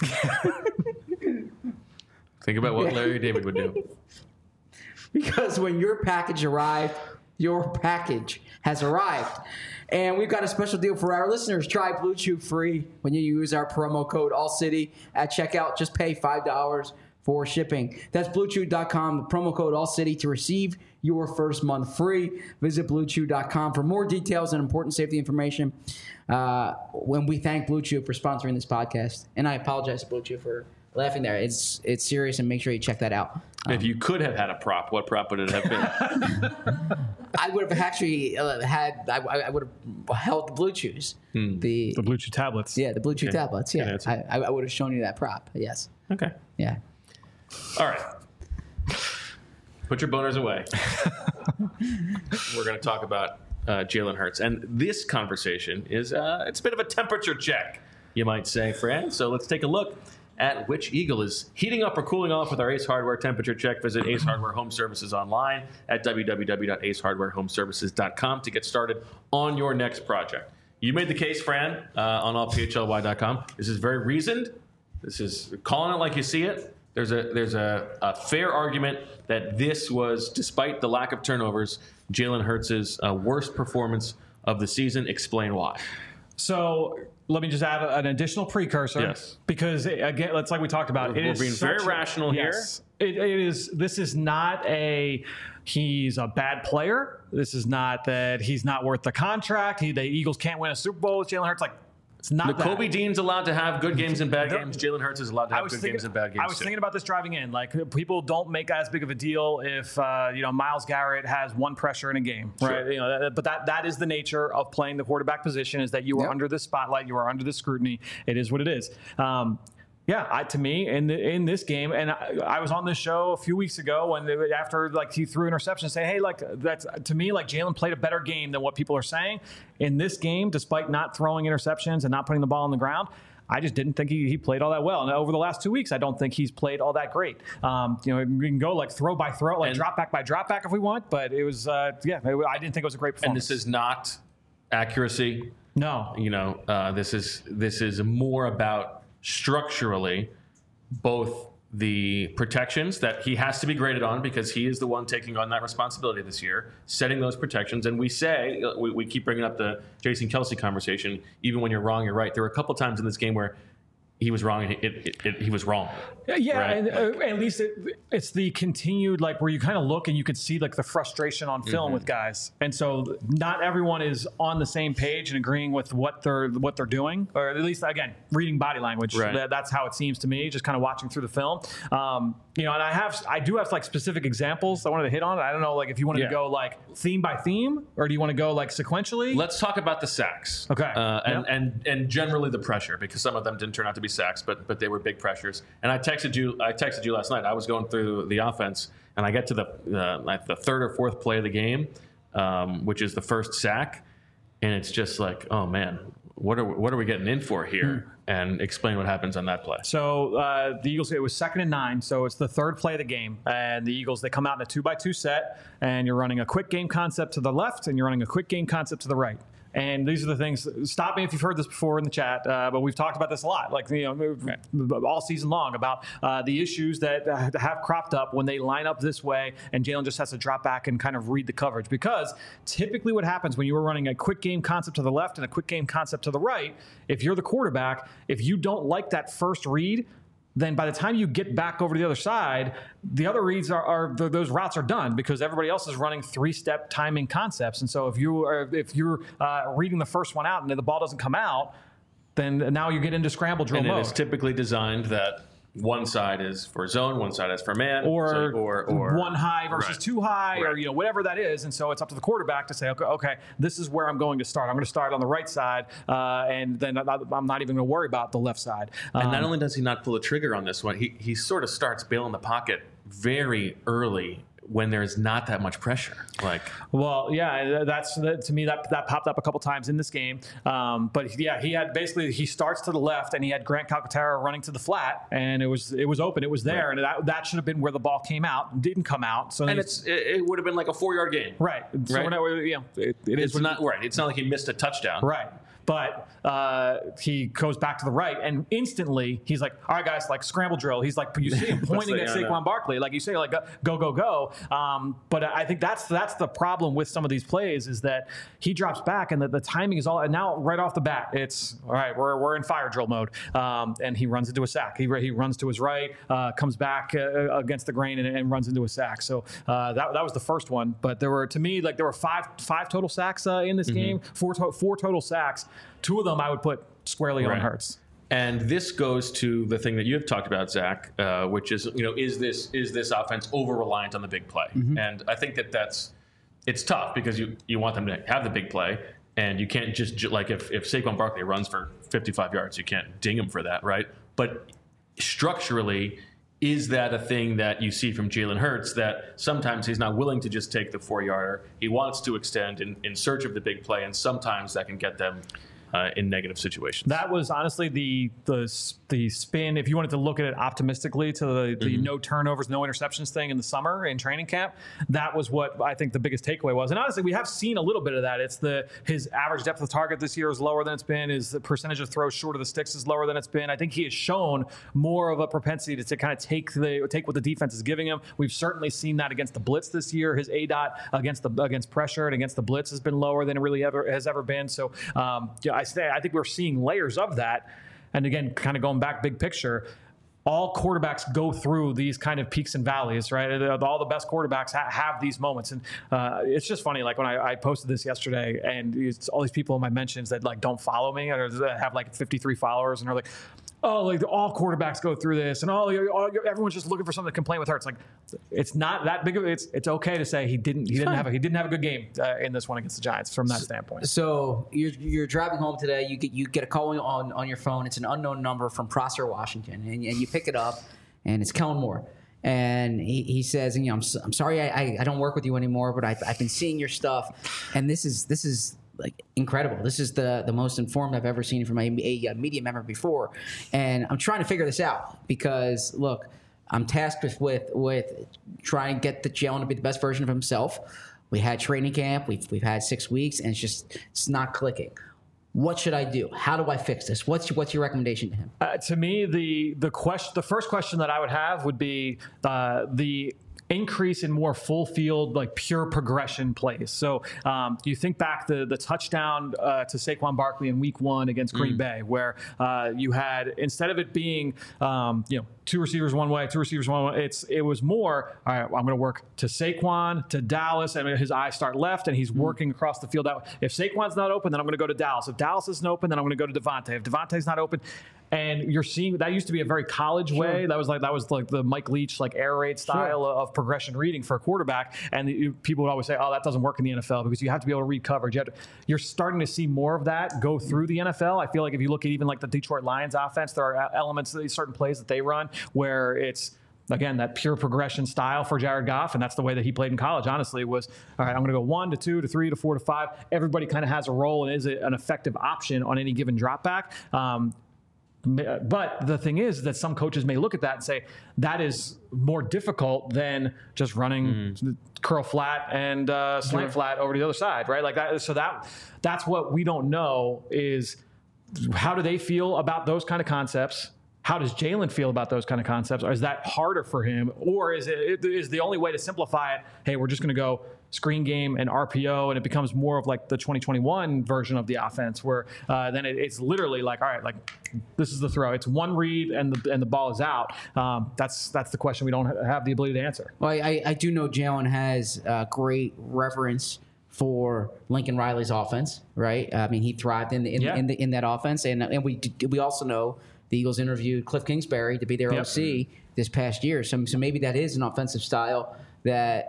Think about what Larry David would do. Because when your package arrived, your package has arrived. And we've got a special deal for our listeners. Try Blue Chew free when you use our promo code ALLCITY at checkout. Just pay $5 for shipping. That's BlueChew.com, the promo code ALLCITY to receive your first month free. Visit BlueChew.com for more details and important safety information. When we thank Blue Chew for sponsoring this podcast. And I apologize to Blue Chew for laughing there. It's serious, and make sure you check that out. If you could have had a prop, what prop would it have been? I would have actually I would have held the Blue Chews. The Blue Chew tablets. Yeah, the Blue Chew tablets. Yeah, Yeah, I would have shown you that prop. Yes. Okay. Yeah. All right. Put your boners away. We're going to talk about Jalen Hurts. And this conversation is it's a bit of a temperature check, you might say, Fran. So let's take a look at which Eagle is heating up or cooling off with our Ace Hardware temperature check. Visit Ace Hardware Home Services online at www.acehardwarehomservices.com to get started on your next project. You made the case, Fran, on allphly.com. This is very reasoned. This is calling it like you see it. There's a fair argument that this was, despite the lack of turnovers, Jalen Hurts' worst performance of the season. Explain why. So let me just add an additional precursor. Yes. Because, again, it's like we talked about. We're being very rational here. Yes. It is. This is not he's a bad player. This is not that he's not worth the contract. The Eagles can't win a Super Bowl with Jalen Hurts. Like, It's not that. Kobe Dean's allowed to have good games and bad games. Jalen Hurts is allowed to have good games and bad games. I was thinking about this driving in. Like, people don't make as big of a deal if Myles Garrett has one pressure in a game, right? Sure. But that is the nature of playing the quarterback position. Is that you are under the spotlight, you are under the scrutiny. It is what it is. To me, in this game, and I was on this show a few weeks ago when after he threw interception, say, hey, that's to me Jalen played a better game than what people are saying in this game, despite not throwing interceptions and not putting the ball on the ground. I just didn't think he played all that well. And over the last 2 weeks, I don't think he's played all that great. We can go throw by throw, drop back by drop back if we want, but it was I didn't think it was a great performance. And this is not accuracy. No. This is more about structurally both the protections that he has to be graded on because he is the one taking on that responsibility this year, setting those protections. And we keep bringing up the Jason Kelce conversation. Even when you're wrong, you're right. There were a couple times in this game where he was wrong, and he was wrong. Yeah, right? And at least it's the continued where you kind of look and you can see the frustration on film with guys, and so not everyone is on the same page and agreeing with what they're doing, or at least again reading body language. Right. That's how it seems to me, just kind of watching through the film. And I do have specific examples I wanted to hit on. I don't know if you wanted to go theme by theme, or do you want to go sequentially? Let's talk about the sacks. Okay. And generally the pressure, because some of them didn't turn out to be sacks, but they were big pressures. And I texted you last night. I was going through the offense, and I get to the third or fourth play of the game, which is the first sack, and it's just oh man, what are we getting in for here? And explain what happens on that play. So the Eagles, it was 2nd and 9, so it's the third play of the game. And the Eagles, they come out in a 2-by-2 set, and you're running a quick game concept to the left, and you're running a quick game concept to the right. And these are the things. Stop me if you've heard this before in the chat, but we've talked about this a lot, all season long, about the issues that have cropped up when they line up this way, and Jalen just has to drop back and kind of read the coverage. Because typically, what happens when you are running a quick game concept to the left and a quick game concept to the right, if you're the quarterback, if you don't like that first read, then by the time you get back over to the other side, the other reads those routes are done because everybody else is running 3-step timing concepts. And so if you're reading the first one out and the ball doesn't come out, then now you get into scramble drill mode. And it is typically designed that one side is for zone, one side is for man, or one high versus two high, right. or whatever that is. And so it's up to the quarterback to say, okay, this is where I'm going to start. I'm going to start on the right side, and then I'm not even going to worry about the left side. And not only does he not pull the trigger on this one, he sort of starts bailing the pocket very early when there's not that much pressure. To me that popped up a couple times in this game. But yeah, he starts to the left, and he had Grant Calcaterra running to the flat, and it was open, it was there, right. And that should have been where the ball came out, didn't come out. So and it would have been like a 4-yard gain, right? So right? It's not right. It's not like he missed a touchdown, right? But he goes back to the right, and instantly he's like, all right, guys, scramble drill. He's you see him pointing at Saquon Barkley. You say, go, go, go. But I think that's the problem with some of these plays is that he drops back, and the timing is all, and now right off the bat, it's, all right, we're in fire drill mode. And he runs into a sack. He runs to his right, comes back against the grain and runs into a sack. So that was the first one. But there were five total sacks in this game, four total sacks. 2 of them I would put squarely on Hurts. And this goes to the thing that you've talked about, Zach, which is, is this offense over-reliant on the big play? And I think it's tough because you want them to have the big play, and you can't just, if Saquon Barkley runs for 55 yards, you can't ding him for that, right? But structurally, is that a thing that you see from Jalen Hurts, that sometimes he's not willing to just take the 4-yarder? He wants to extend in search of the big play, and sometimes that can get them in negative situations. That was honestly the spin, if you wanted to look at it optimistically, to the no turnovers, no interceptions thing in the summer in training camp. That was what I think the biggest takeaway was. And honestly, we have seen a little bit of that. It's his average depth of target this year is lower than it's been. His percentage of throws short of the sticks is lower than it's been. I think he has shown more of a propensity to kind of take what the defense is giving him. We've certainly seen that against the blitz this year. His ADOT against pressure and against the blitz has been lower than it really has ever been. So I think we're seeing layers of that. And again, kind of going back big picture, all quarterbacks go through these kind of peaks and valleys, right? All the best quarterbacks have these moments. And it's just funny, like when I posted this yesterday, and it's all these people in my mentions that like don't follow me or have like 53 followers, and are like, oh, like all quarterbacks go through this, and everyone's just looking for something to complain with her. It's like, it's not that big of it's okay to say he didn't have a good game in this one against the Giants from that standpoint. So you're driving home today. You get a call on your phone. It's an unknown number from Prosser, Washington, and you pick it up, and it's Kellen Moore. And he says, I'm sorry I don't work with you anymore, but I've been seeing your stuff, and this is like incredible. This is the most informed I've ever seen from a media member before, and I'm trying to figure this out because look, I'm tasked with trying to get Jalen to be the best version of himself. We had training camp, we've had 6 weeks, and it's not clicking. What should I do? How do I fix this? What's your recommendation to him? To me, the first question that I would have would be the increase in more full field, like pure progression plays. So you think back the touchdown to Saquon Barkley in week 1 against Green Bay, where you had, instead of it being, two receivers one way, it was more, all right, I'm going to work to Saquon, to Dallas, and his eyes start left, and he's working across the field. If Saquon's not open, then I'm going to go to Dallas. If Dallas isn't open, then I'm going to go to Devontae. If Devontae's not open, and you're seeing that used to be a very college way. That was like the Mike Leach like air raid style of progression reading for a quarterback. And people would always say, "Oh, that doesn't work in the NFL because you have to be able to read coverage." You're starting to see more of that go through the NFL. I feel like if you look at even like the Detroit Lions offense, there are elements of these certain plays that they run where it's, again, that pure progression style for Jared Goff, and that's the way that he played in college, honestly, was, all right, I'm going to go 1 to 2 to 3 to 4 to 5. Everybody kind of has a role and is an effective option on any given drop back. But the thing is that some coaches may look at that and say that is more difficult than just running curl flat and slant flat over to the other side, right? Like that. So that's what we don't know is how do they feel about those kind of concepts? How does Jalen feel about those kind of concepts? Or is that harder for him? Or is the only way to simplify it, hey, we're just going to go screen game and RPO, and it becomes more of like the 2021 version of the offense where then it's literally like, all right, like this is the throw. It's one read and the ball is out. That's the question we don't have the ability to answer. Well, I do know Jalen has great reverence for Lincoln Riley's offense, right? I mean, he thrived in that offense, and we also know the Eagles interviewed Cliff Kingsbury to be their OC this past year. So maybe that is an offensive style that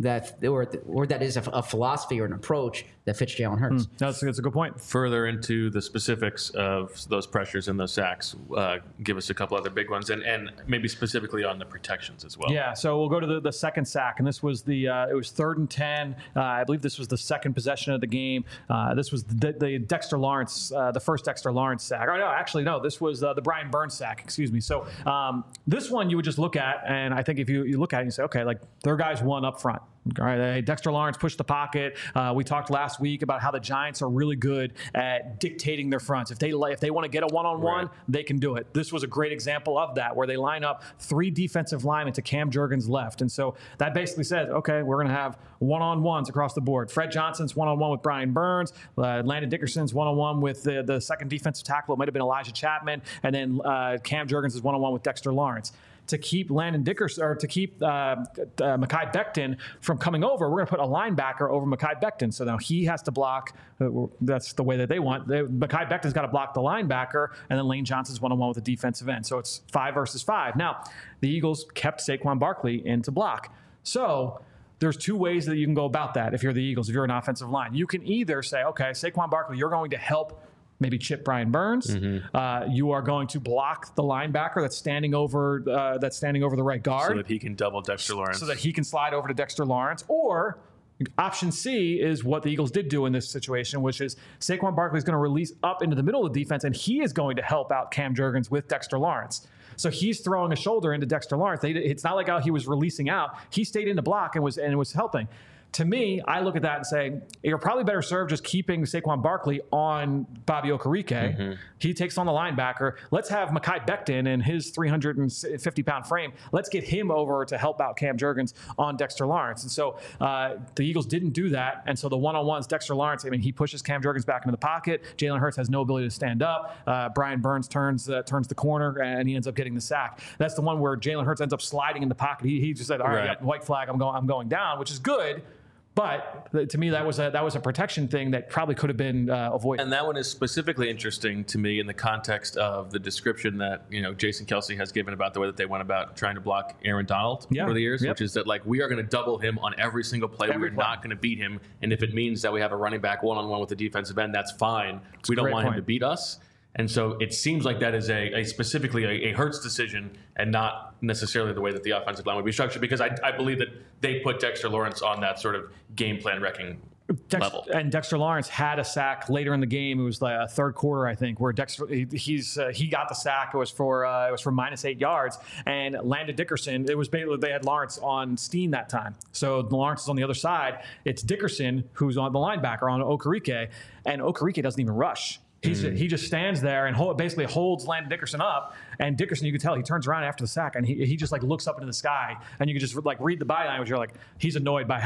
is a philosophy or an approach that fits Jalen Hurts. That's a good point. Further into the specifics of those pressures and those sacks, give us a couple other big ones, and maybe specifically on the protections as well. Yeah, so we'll go to the second sack, and this was it was 3rd and 10. I believe this was the second possession of the game. This was the Dexter Lawrence, the first Dexter Lawrence sack. No, this was the Brian Burns sack. Excuse me. So this one you would just look at, and I think if you look at it and you say, okay, like their guys won up front. All right, Dexter Lawrence pushed the pocket. We talked last week about how the Giants are really good at dictating their fronts. If they want to get a one-on-one, they can do it. This was a great example of that, where they line up 3 defensive linemen to Cam Jurgens' left. And so that basically says, okay, we're going to have one-on-ones across the board. Fred Johnson's one-on-one with Brian Burns. Landon Dickerson's one-on-one with the second defensive tackle. It might have been Elijah Chapman. And then Cam Jurgens is one-on-one with Dexter Lawrence. To keep Landon Dickerson, or to keep Mekhi Becton from coming over, we're going to put a linebacker over Mekhi Becton. So now he has to block. That's the way that they want. Mekhi Becton's got to block the linebacker, and then Lane Johnson's one-on-one with the defensive end. So it's 5 versus 5. Now, the Eagles kept Saquon Barkley in to block. So there's 2 ways that you can go about that if you're the Eagles, if you're an offensive line. You can either say, okay, Saquon Barkley, you're going to help maybe chip Brian Burns. You are going to block the linebacker that's standing over the right guard, so that he can double Dexter Lawrence, so that he can slide over to Dexter Lawrence. Or option C is what the Eagles did do in this situation, which is Saquon Barkley is going to release up into the middle of the defense, and he is going to help out Cam Jurgens with Dexter Lawrence. So he's throwing a shoulder into Dexter Lawrence. It's not like how he was releasing out. He stayed in the block and was helping. To me, I look at that and say, you're probably better served just keeping Saquon Barkley on Bobby Okereke. He takes on the linebacker. Let's have Mekhi Becton in his 350-pound frame. Let's get him over to help out Cam Jurgens on Dexter Lawrence. And so the Eagles didn't do that. And so the one-on-ones, Dexter Lawrence, I mean, he pushes Cam Jurgens back into the pocket. Jalen Hurts has no ability to stand up. Brian Burns turns the corner, and he ends up getting the sack. That's the one where Jalen Hurts ends up sliding in the pocket. He just said, all right, yeah, white flag, I'm going down, which is good. But to me, that was a protection thing that probably could have been avoided. And that one is specifically interesting to me in the context of the description that Jason Kelce has given about the way that they went about trying to block Aaron Donald over the years, which is that like we are going to double him on every single play. We're not going to beat him, and if it means that we have a running back one-on-one with the defensive end, that's fine. We don't want him to beat us. And so it seems like that is a specifically a Hurts decision and not necessarily the way that the offensive line would be structured, because I believe that they put Dexter Lawrence on that sort of game plan wrecking level. And Dexter Lawrence had a sack later in the game. It was like a third quarter, I think, where Dexter he got the sack. It was for -8 yards. And Landon Dickerson, it was basically they had Lawrence on Steen that time. So Lawrence is on the other side. It's Dickerson who's on the linebacker on Okereke, and Okereke doesn't even rush. He just stands there and basically holds Landon Dickerson up. And Dickerson, you can tell, he turns around after the sack and he just like looks up into the sky, and you can just like read the body language. You're like, he's annoyed by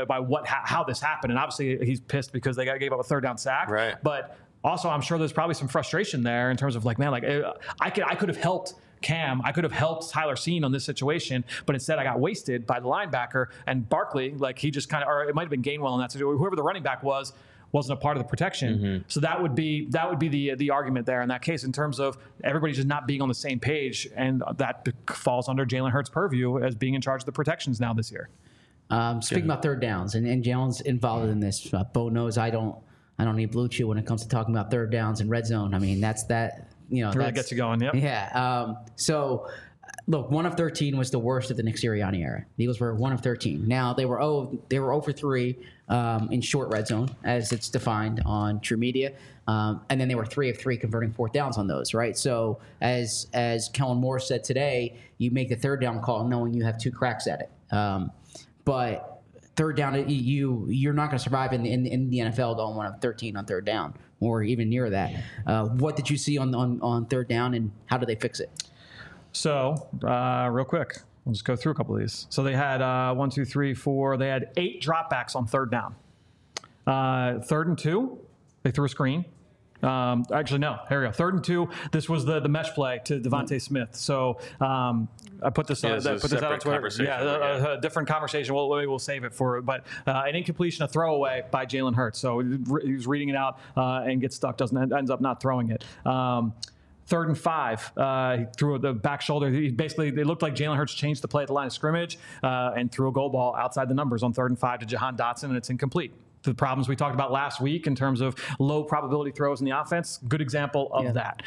how this happened, and obviously he's pissed because they gave up a third down sack. Right. But also, I'm sure there's probably some frustration there in terms of like, man, like I could have helped Cam. I could have helped Tyler Seen on this situation, but instead I got wasted by the linebacker and Barkley. Like he just or it might have been Gainwell in that situation. Whoever the running back wasn't a part of the protection. So that would be the argument there in that case, in terms of everybody just not being on the same page, and that falls under Jalen Hurts' purview as being in charge of the protections now this year. Speaking about third downs, and Jalen's involved in this. Bo knows I don't need blue chew when it comes to talking about third downs and red zone. I mean, it really gets you going. Yep. Yeah. So. Look, 1 of 13 was the worst of the Nick Sirianni era. The Eagles were 1 of 13. Now they were 0 for 3 in short red zone, as it's defined on True Media, and then they were 3 of 3 converting fourth downs on those. Right. So as Kellen Moore said today, you make the third down call knowing you have 2 cracks at it. But third down, you're not going to survive in the NFL going 1 of 13 on third down, or even near that. What did you see on third down, and how do they fix it? So, real quick, we'll just go through a couple of these. So they had 1, 2, 3, 4. They had 8 dropbacks on third down. 3rd and 2, they threw a screen. Actually, no. Here we go. 3rd and 2. This was the mesh play to Devontae Smith. So I put this out on Twitter. Yeah, a different conversation. We'll save it for. But an incompletion, a throwaway by Jalen Hurts. So he was reading it out and gets stuck. Ends up not throwing it. 3rd and 5, he threw the back shoulder. It looked like Jalen Hurts changed the play at the line of scrimmage and threw a goal ball outside the numbers on 3rd and 5 to Jahan Dotson, and it's incomplete. The problems we talked about last week in terms of low probability throws in the offense, good example of that.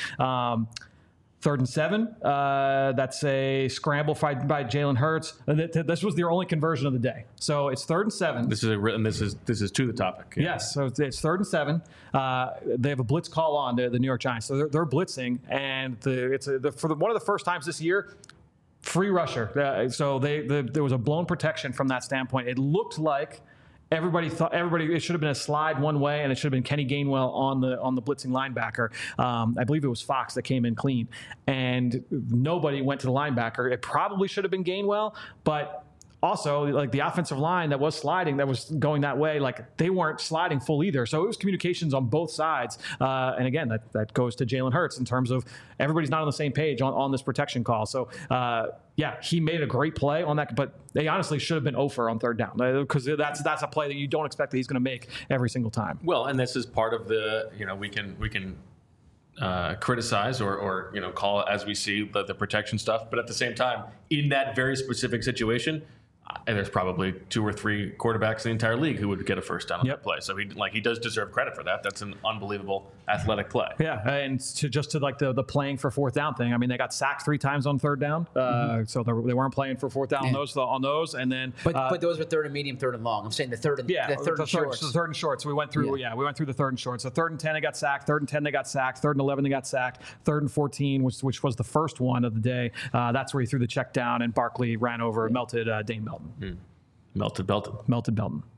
3rd and 7, that's a scramble by Jalen Hurts. This was their only conversion of the day. So it's 3rd and 7. This is to the topic. Yeah. Yes. So it's 3rd and 7. They have a blitz call on the New York Giants. So they're blitzing, and for one of the first times this year, free rusher. So there was a blown protection from that standpoint. It looked like everybody thought it should have been a slide one way, and it should have been Kenny Gainwell on the blitzing linebacker. I believe it was Fox that came in clean, and nobody went to the linebacker. It probably should have been Gainwell, but also, like the offensive line that was sliding, that was going that way, like they weren't sliding full either. So it was communications on both sides. And again, that goes to Jalen Hurts in terms of everybody's not on the same page on this protection call. So he made a great play on that, but they honestly should have been 0 for on 3rd down, because that's a play that you don't expect that he's going to make every single time. Well, and this is part of the we can criticize or call it as we see the protection stuff, but at the same time, in that very specific situation, and there's probably 2 or 3 quarterbacks in the entire league who would get a first down on that play. So he does deserve credit for that. That's an unbelievable athletic play. Yeah, and to the playing for 4th down thing. I mean, they got sacked 3 times on 3rd down, so they weren't playing for 4th down on those. And then, but those were 3rd and medium, 3rd and long. I'm saying the third and short. So 3rd and short. So we went through the 3rd and short. So 3rd and 10 they got sacked. 3rd and 10 they got sacked. 3rd and 11 they got sacked. 3rd and 14, which was the first one of the day. That's where he threw the check down, and Barkley ran over, melted Dane Belton. Melted Belton.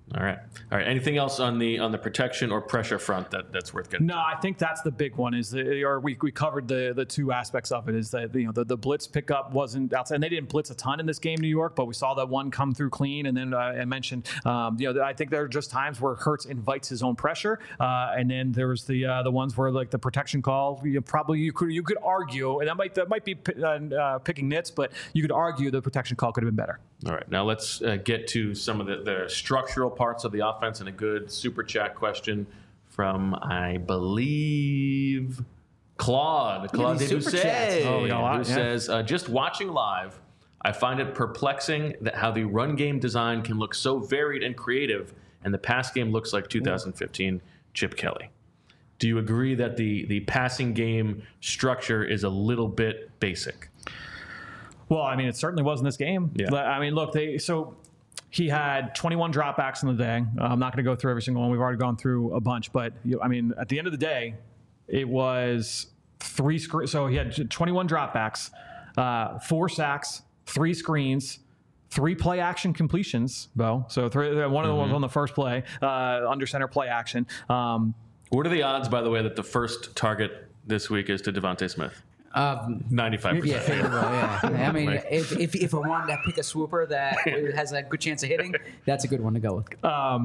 All right. Anything else on the protection or pressure front that's worth getting? No, I think that's the big one. We covered the two aspects of it. Is that the blitz pickup wasn't outside, and they didn't blitz a ton in this game, New York, but we saw that one come through clean. And then I mentioned, I think there are just times where Hurts invites his own pressure, and then there was the ones where like the protection call. You could argue, and that might be picking nits, but you could argue the protection call could have been better. All right, now let's get to some of the structural parts of the offense, and a good super chat question from, I believe, Claude Debussy, who says, just watching live, I find it perplexing that how the run game design can look so varied and creative, and the pass game looks like 2015 Chip Kelly. Do you agree that the passing game structure is a little bit basic? Well, I mean, it certainly was in this game. Yeah. I mean, look, he had 21 dropbacks in the day. I'm not going to go through every single one. We've already gone through a bunch. But, I mean, at the end of the day, it was 3 screens. So he had 21 dropbacks, 4 sacks, 3 screens, 3 play action completions, Bo. So one of the ones on the first play, under center play action. What are the odds, by the way, that the first target this week is to Devontae Smith? 95%. Yeah, favorable. Yeah. I mean, if I wanted to pick a swooper that has a good chance of hitting, that's a good one to go with.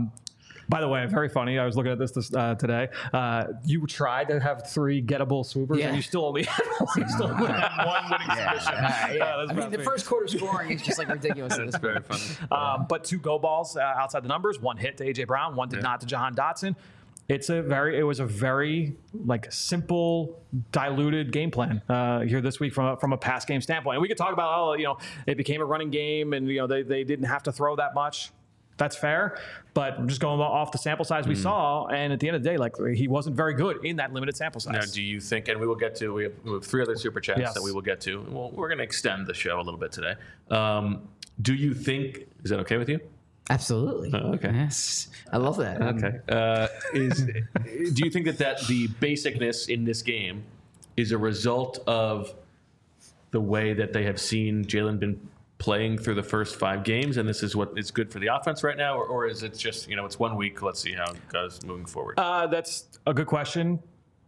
By the way, very funny. I was looking at this today. You tried to have 3 gettable swoopers, and you still only had one winning submission. I mean, the first quarter scoring is just like ridiculous. That's very funny. But 2 go balls outside the numbers. 1 hit to A.J. Brown. 1 did not to Jahan Dotson. It was a very like simple, diluted game plan here this week from a pass game standpoint. And we could talk about it became a running game, and they didn't have to throw that much. That's fair, but I'm just going off the sample size we saw, and at the end of the day, like he wasn't very good in that limited sample size. Now, do you think? And we will get to. We have 3 other super chats that we will get to. Well, we're going to extend the show a little bit today. Do you think? Is that okay with you? Absolutely. Okay. Yes. I love that. Okay. Do you think that the basicness in this game is a result of the way that they have seen Jalen been playing through the first 5 games, and this is what is good for the offense right now, or is it just it's 1 week? Let's see how it goes moving forward. That's a good question.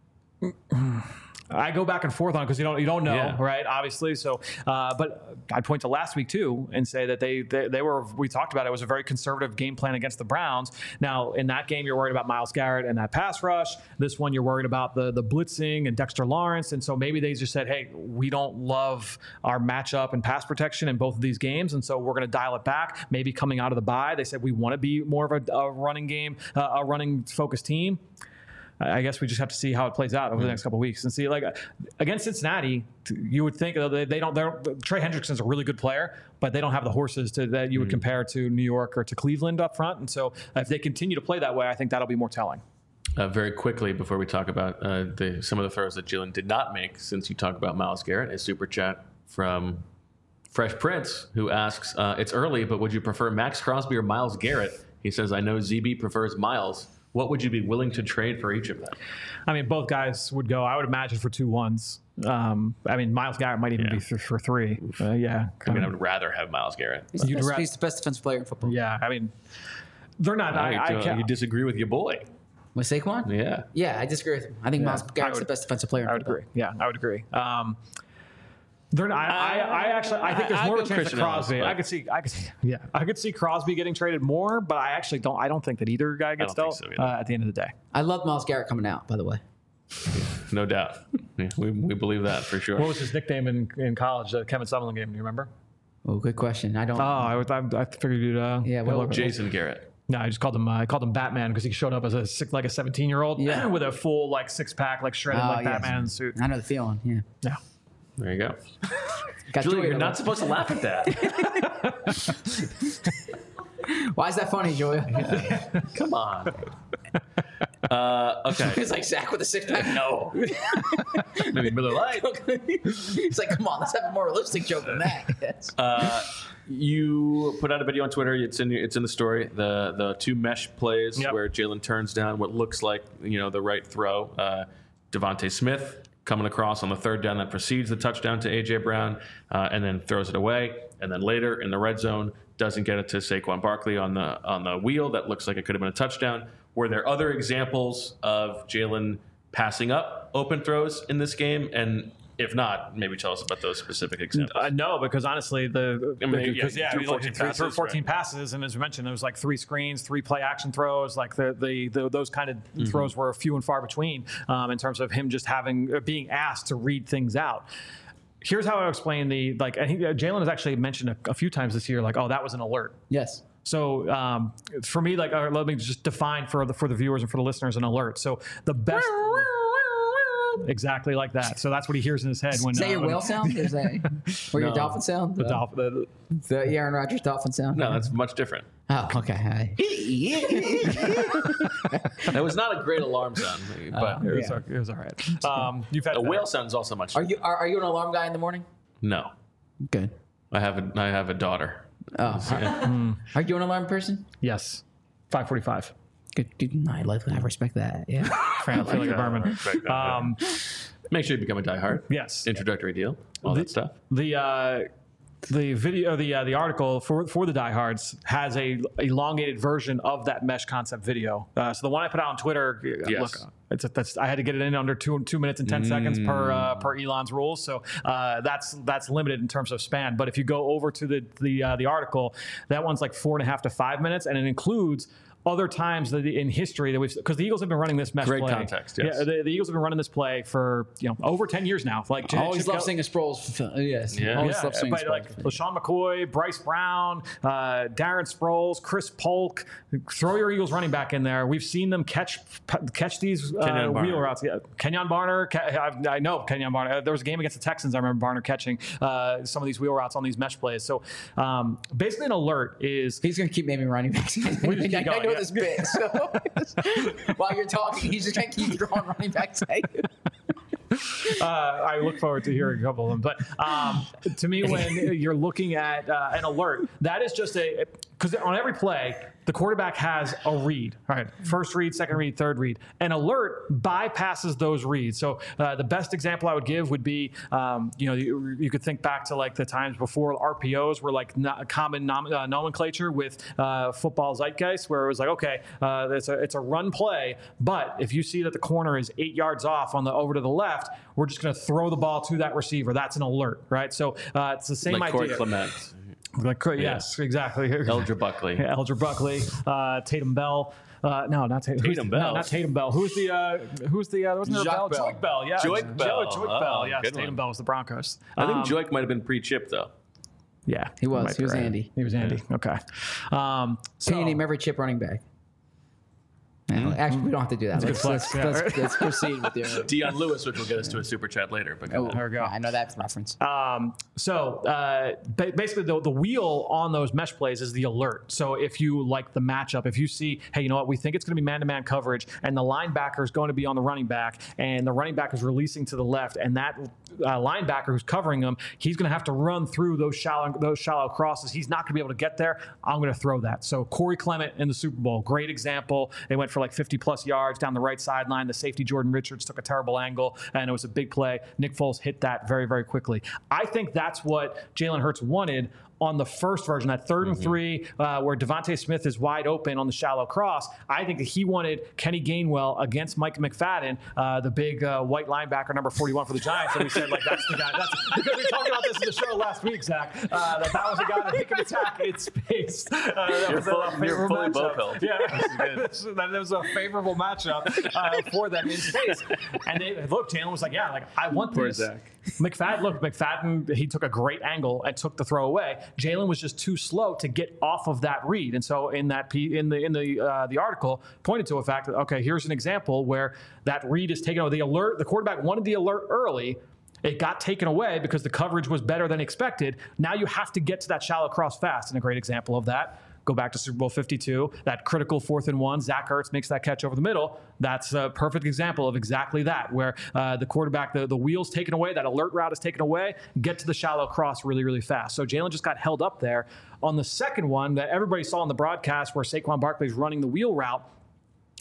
I go back and forth on it because you don't know, right? Obviously, so but I point to last week too and say that they were. We talked about it was a very conservative game plan against the Browns. Now in that game, you're worried about Myles Garrett and that pass rush. This one, you're worried about the blitzing and Dexter Lawrence, and so maybe they just said, hey, we don't love our matchup and pass protection in both of these games, and so we're going to dial it back. Maybe coming out of the bye, they said we want to be more of a running game, a running focused team. I guess we just have to see how it plays out over the next couple of weeks and see. Like against Cincinnati, you would think they don't. Trey Hendrickson's a really good player, but they don't have the horses that you would compare to New York or to Cleveland up front. And so, if they continue to play that way, I think that'll be more telling. Very quickly before we talk about some of the throws that Jalen did not make, since you talk about Myles Garrett, a super chat from Fresh Prince who asks, "It's early, but would you prefer Max Crosby or Myles Garrett?" He says, "I know ZB prefers Myles. What would you be willing to trade for each of them?" I mean, both guys would go, I would imagine, for 2 1s. I mean, Myles Garrett might even be for 3. I mean, I would rather have Myles Garrett. He's the best defensive player in football. Yeah, I mean, they're not. You disagree with your boy. With Saquon? Yeah. Yeah, I disagree with him. I think Myles Garrett's the best defensive player in football. I would agree. Yeah, I would agree. They're not, I think there's more of a chance of Crosby. I could see Crosby getting traded more, but I actually don't. I don't think that either guy gets dealt at the end of the day. I love Myles Garrett coming out, by the way. No doubt. Yeah, we believe that for sure. What was his nickname in college? The Kevin Summerlin game. Do you remember? Oh, good question. I don't. I figured you'd. Jason Garrett. No, I just called him. I called him Batman because he showed up as a 17-year-old with a full 6-pack shredded Batman suit. I know the feeling. Yeah. Yeah. There you go. Julie, you're not supposed to laugh at that. Why is that funny, Julia? Come on. Okay. It's like Zach with a 6-pack. No. Maybe Miller Lite. It's like, come on, let's have a more realistic joke than that. Yes. You put out a video on Twitter. It's in the story. The 2 mesh plays where Jalen turns down what looks like the right throw. Devontae Smith coming across on the third down that precedes the touchdown to A.J. Brown, and then throws it away. And then later in the red zone, doesn't get it to Saquon Barkley on the wheel. That looks like it could have been a touchdown. Were there other examples of Jalen passing up open throws in this game? And if not, maybe tell us about those specific examples. No, because honestly, he threw 14 passes, and as we mentioned, it was like 3 screens, 3 play action throws. Like those kind of throws were few and far between in terms of him just being asked to read things out. Here's how I explain Jalen has actually mentioned a few times this year, like, oh, that was an alert. Yes. So for me, let me just define for the viewers and for the listeners an alert. So the best. Exactly like that. So that's what he hears in his head when. Is that your whale sound? Or is that your dolphin sound? The Aaron Rodgers dolphin sound? No, that's much different. Oh, okay. That was not a great alarm sound, but it was all right. You've had a whale sound is also much. Are you an alarm guy in the morning? No. Good. I have a daughter. Oh. Are you an alarm person? Yes. 5:45. Good. I respect that. Yeah. Felix Berman. Make sure you become a diehard. Yes. Introductory deal. All that stuff. The video, the article for the diehards has a elongated version of that mesh concept video. So the one I put out on Twitter, yes. Look, I had to get it in under 2 minutes and 10 seconds per Elon's rules. So that's limited in terms of span. But if you go over to the article, that one's like 4.5 to 5 minutes, and it includes other times in history that because the Eagles have been running this mesh play. Great context, yes. Yeah, the Eagles have been running this play for over 10 years now. Like always love seeing Sproles. Yes, always love seeing Sproles. Like LaShawn McCoy, Bryce Brown, Darren Sproles, Chris Polk. Throw your Eagles running back in there. We've seen them catch these wheel routes. Yeah. Kenyon Barner. I know Kenyon Barner. There was a game against the Texans. I remember Barner catching some of these wheel routes on these mesh plays. So basically, an alert is he's going to keep naming running backs. I know this bit. So while you're talking, he's just going to keep throwing running backs at you. I look forward to hearing a couple of them. But to me, when you're looking at an alert, that is just because on every play, the quarterback has a read. All right, first read, second read, third read. An alert bypasses those reads. So the best example I would give would be, you could think back to like the times before RPOs were like common nomenclature with football zeitgeist, where it was like, okay, it's a run play, but if you see that the corner is 8 yards off over to the left, we're just going to throw the ball to that receiver. That's an alert, right? So it's the same like idea. Corey Clement. Yes, exactly. Eldra Buckley. Eldra Buckley, Tatum Bell. No, not Tatum. Tatum Bell. No, not Tatum Bell. Who's the wasn't there a Bell? Bell. Joik Bell. Yeah. Joik Bell. Joik Bell. Yes. Good Tatum one. Bell was the Broncos. I think Joik might have been pre-chip though. Yeah, He was right. Andy. He was Andy. Yeah. Okay. Can you name every chip running back? Actually, we don't have to do that. Let's proceed with your Dion Lewis, which will get us to a super chat later. But there we go. I know that reference. Basically, the wheel on those mesh plays is the alert. So if you like the matchup, if you see, hey, you know what, we think it's going to be man-to-man coverage, and the linebacker is going to be on the running back, and the running back is releasing to the left, and that linebacker who's covering him, he's going to have to run through those shallow crosses. He's not going to be able to get there. I'm going to throw that. So Corey Clement in the Super Bowl, great example. They went for like 50-plus yards down the right sideline. The safety, Jordan Richards, took a terrible angle, and it was a big play. Nick Foles hit that very, very quickly. I think that's what Jalen Hurts wanted on the first version, that 3rd and 3, where Devontae Smith is wide open on the shallow cross. I think that he wanted Kenny Gainwell against Mike McFadden, the big white linebacker, number 41 for the Giants. And we said, like, that's the guy. That's because we talked about this in the show last week, Zach. That was the guy that he could attack in space. You're fully Bopel. Yeah, that was a favorable matchup for them in space. And Jalen was like, yeah, like I want this. Zach. McFadden, he took a great angle and took the throw away. Jalen was just too slow to get off of that read, and so in the article pointed to a fact that, okay, here's an example where that read is taken over. The alert, the quarterback wanted the alert early. It got taken away because the coverage was better than expected. Now you have to get to that shallow cross fast, and a great example of that. Go back to Super Bowl 52, that critical 4th and 1. Zach Ertz makes that catch over the middle. That's a perfect example of exactly that, where the quarterback, the wheel's taken away, that alert route is taken away, get to the shallow cross really, really fast. So Jalen just got held up there. On the second one that everybody saw on the broadcast where Saquon Barkley's running the wheel route,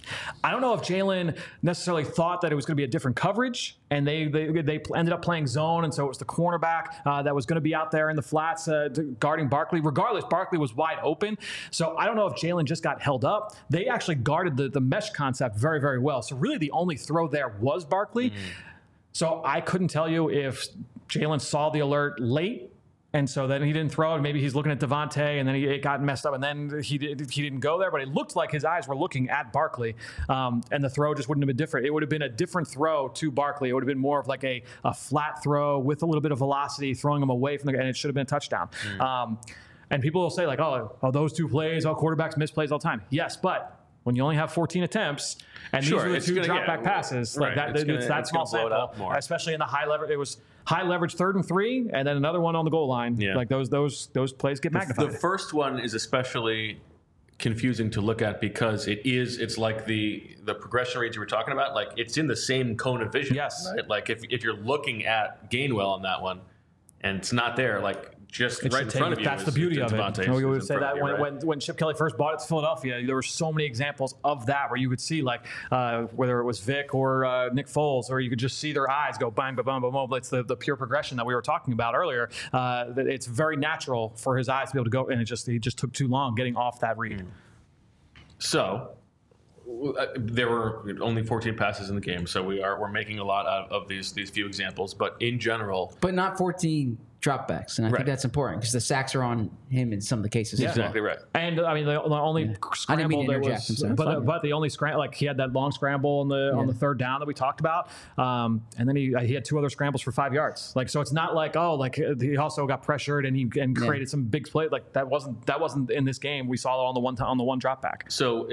I don't know if Jalen necessarily thought that it was going to be a different coverage, and they ended up playing zone, and so it was the cornerback that was going to be out there in the flats guarding Barkley. Regardless, Barkley was wide open. So I don't know if Jalen just got held up. They actually guarded the mesh concept very, very well. So really the only throw there was Barkley. So I couldn't tell you if Jalen saw the alert late, and so then he didn't throw it. Maybe he's looking at Devontae, and then it got messed up, and then he didn't go there. But it looked like his eyes were looking at Barkley, and the throw just wouldn't have been different. It would have been a different throw to Barkley. It would have been more of like a flat throw with a little bit of velocity, throwing him away from and it should have been a touchdown. And people will say like, oh, those two plays, quarterbacks miss plays all the time. Yes, but when you only have 14 attempts, and these are the two drop-back passes, like that small sample, especially in the high leverage. It was high leverage 3rd and 3, and then another one on the goal line. Yeah. Like those plays get magnified. The first one is especially confusing to look at because it's like the progression reads you were talking about. Like it's in the same cone of vision. Yes. Right? Like if you're looking at Gainwell on that one, and it's not there, like. Just right in front of you. That's the beauty of it. We would say that when Chip Kelly first bought it to Philadelphia, there were so many examples of that where you could see like whether it was Vic or Nick Foles, or you could just see their eyes go bang, bang, bang, bang, bang. It's the pure progression that we were talking about earlier. It's very natural for his eyes to be able to go, and he just took too long getting off that read. So there were only 14 passes in the game, so we're making a lot out of these few examples, but in general, but not 14 dropbacks, and I think that's important because the sacks are on him in some of the cases. Yeah, exactly right. And I mean, the only scramble there was, but the only scramble, like he had that long scramble on the 3rd down that we talked about, and then he had 2 other scrambles for 5 yards. Like so, it's not like he also got pressured and created some big play. Like that wasn't in this game. We saw it on the one drop back. So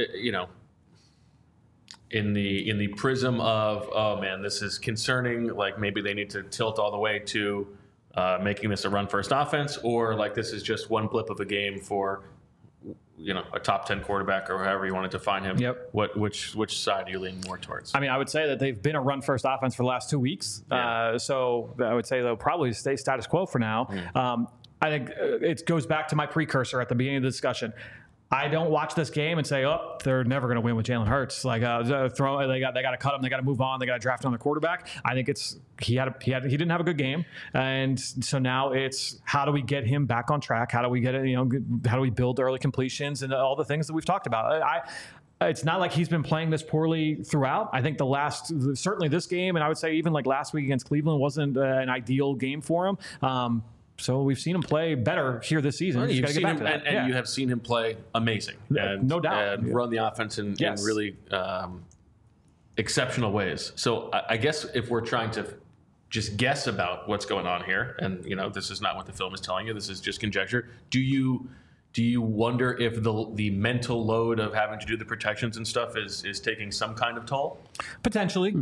in the prism of, oh man, this is concerning, like maybe they need to tilt all the way to making this a run first offense, or like this is just one blip of a game for a top 10 quarterback or however you want to define him. Yep. Which side do you lean more towards? I mean, I would say that they've been a run first offense for the last 2 weeks. Yeah. So I would say they'll probably stay status quo for now. I think it goes back to my precursor at the beginning of the discussion. I don't watch this game and say, oh, they're never going to win with Jalen Hurts. Like, they got to cut him. They got to move on. They got to draft another quarterback. I think he didn't have a good game, and so now it's how do we get him back on track? How do we get it? How do we build early completions and all the things that we've talked about? It's not like he's been playing this poorly throughout. I think certainly this game, and I would say even like last week against Cleveland wasn't an ideal game for him. So we've seen him play better here this season. Well, you've seen him, and you have seen him play amazing, no doubt, and run the offense in really exceptional ways. So I guess if we're trying to just guess about what's going on here, and this is not what the film is telling you, this is just conjecture. Do you wonder if the mental load of having to do the protections and stuff is taking some kind of toll? Potentially,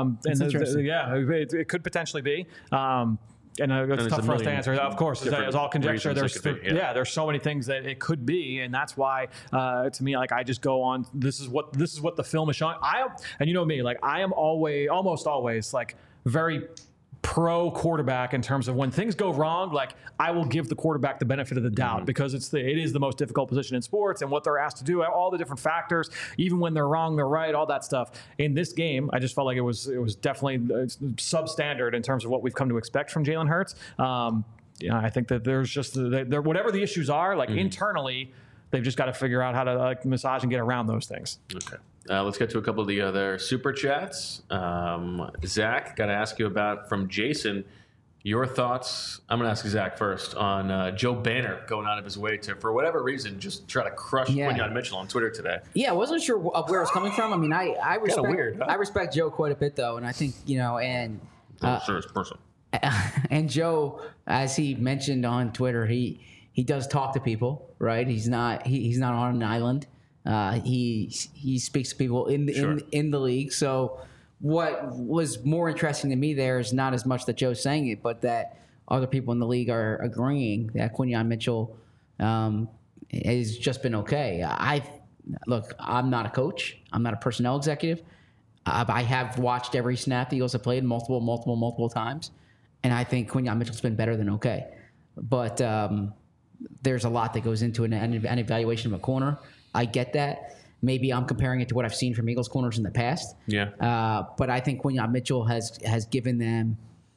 it could potentially be. And it's tough for us to answer. Of course, it's all conjecture. There's so many things that it could be, and that's why, to me, like I just go on. This is what the film is showing. And you know me, like I am almost always like very pro quarterback in terms of when things go wrong, like I will give the quarterback the benefit of the doubt because it is the most difficult position in sports and what they're asked to do, all the different factors, even when they're wrong, they're right, all that stuff. In this game, I just felt like it was definitely substandard in terms of what we've come to expect from Jalen Hurts. I think that there's just whatever the issues are, like internally, they've just got to figure out how to massage and get around those things. Okay. Let's get to a couple of the other super chats. Zach, got to ask you about from Jason, your thoughts. I'm going to ask Zach first on Joe Banner going out of his way to, for whatever reason, just try to crush Quinyon Mitchell on Twitter today. Yeah, I wasn't sure where it was coming from. I mean, I respect weird, huh? I respect Joe quite a bit, though, and I think and sure it's personal. And Joe, as he mentioned on Twitter, he does talk to people, right? He's not on an island. He speaks to people in the league. So what was more interesting to me there is not as much that Joe's saying it, but that other people in the league are agreeing that Quinyon Mitchell has just been okay. Look, I'm not a coach. I'm not a personnel executive. I have watched every snap the Eagles have played multiple times, and I think Quinyon Mitchell's been better than okay. But there's a lot that goes into an evaluation of a corner. I get that. maybe I'm comparing it to what I've seen from Eagles corners in the past. Yeah. But I think Quinyon Mitchell has given them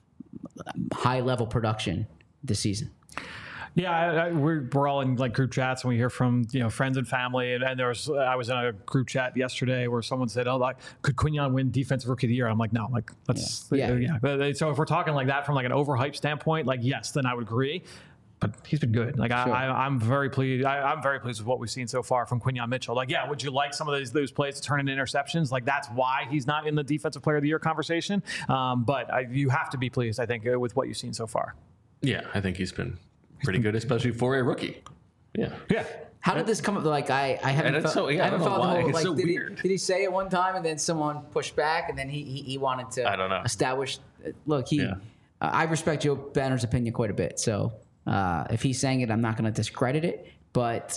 high level production this season. Yeah, we're all in like group chats and we hear from friends and family. And I was in a group chat yesterday where someone said, "Oh, like could Quinyon win Defensive Rookie of the Year?" I'm like, no, like let's yeah. But so if we're talking like that from like an overhyped standpoint, like yes, then I would agree. But he's been good. Like sure. I'm very pleased. I'm very pleased with what we've seen so far from Quinyon Mitchell. Like, yeah, would you like some of those plays to turn into interceptions? Like that's why he's not in the Defensive Player of the Year conversation. But you have to be pleased, I think, with what you've seen so far. Yeah, I think he's been pretty good, especially for a rookie. Yeah. How did this come up? Like I haven't felt I don't know why. It's so did weird. Did he say it one time and then someone pushed back and then he wanted to I don't know. establish? Look, I respect Joe Banner's opinion quite a bit. So if he's saying it, I'm not going to discredit it. But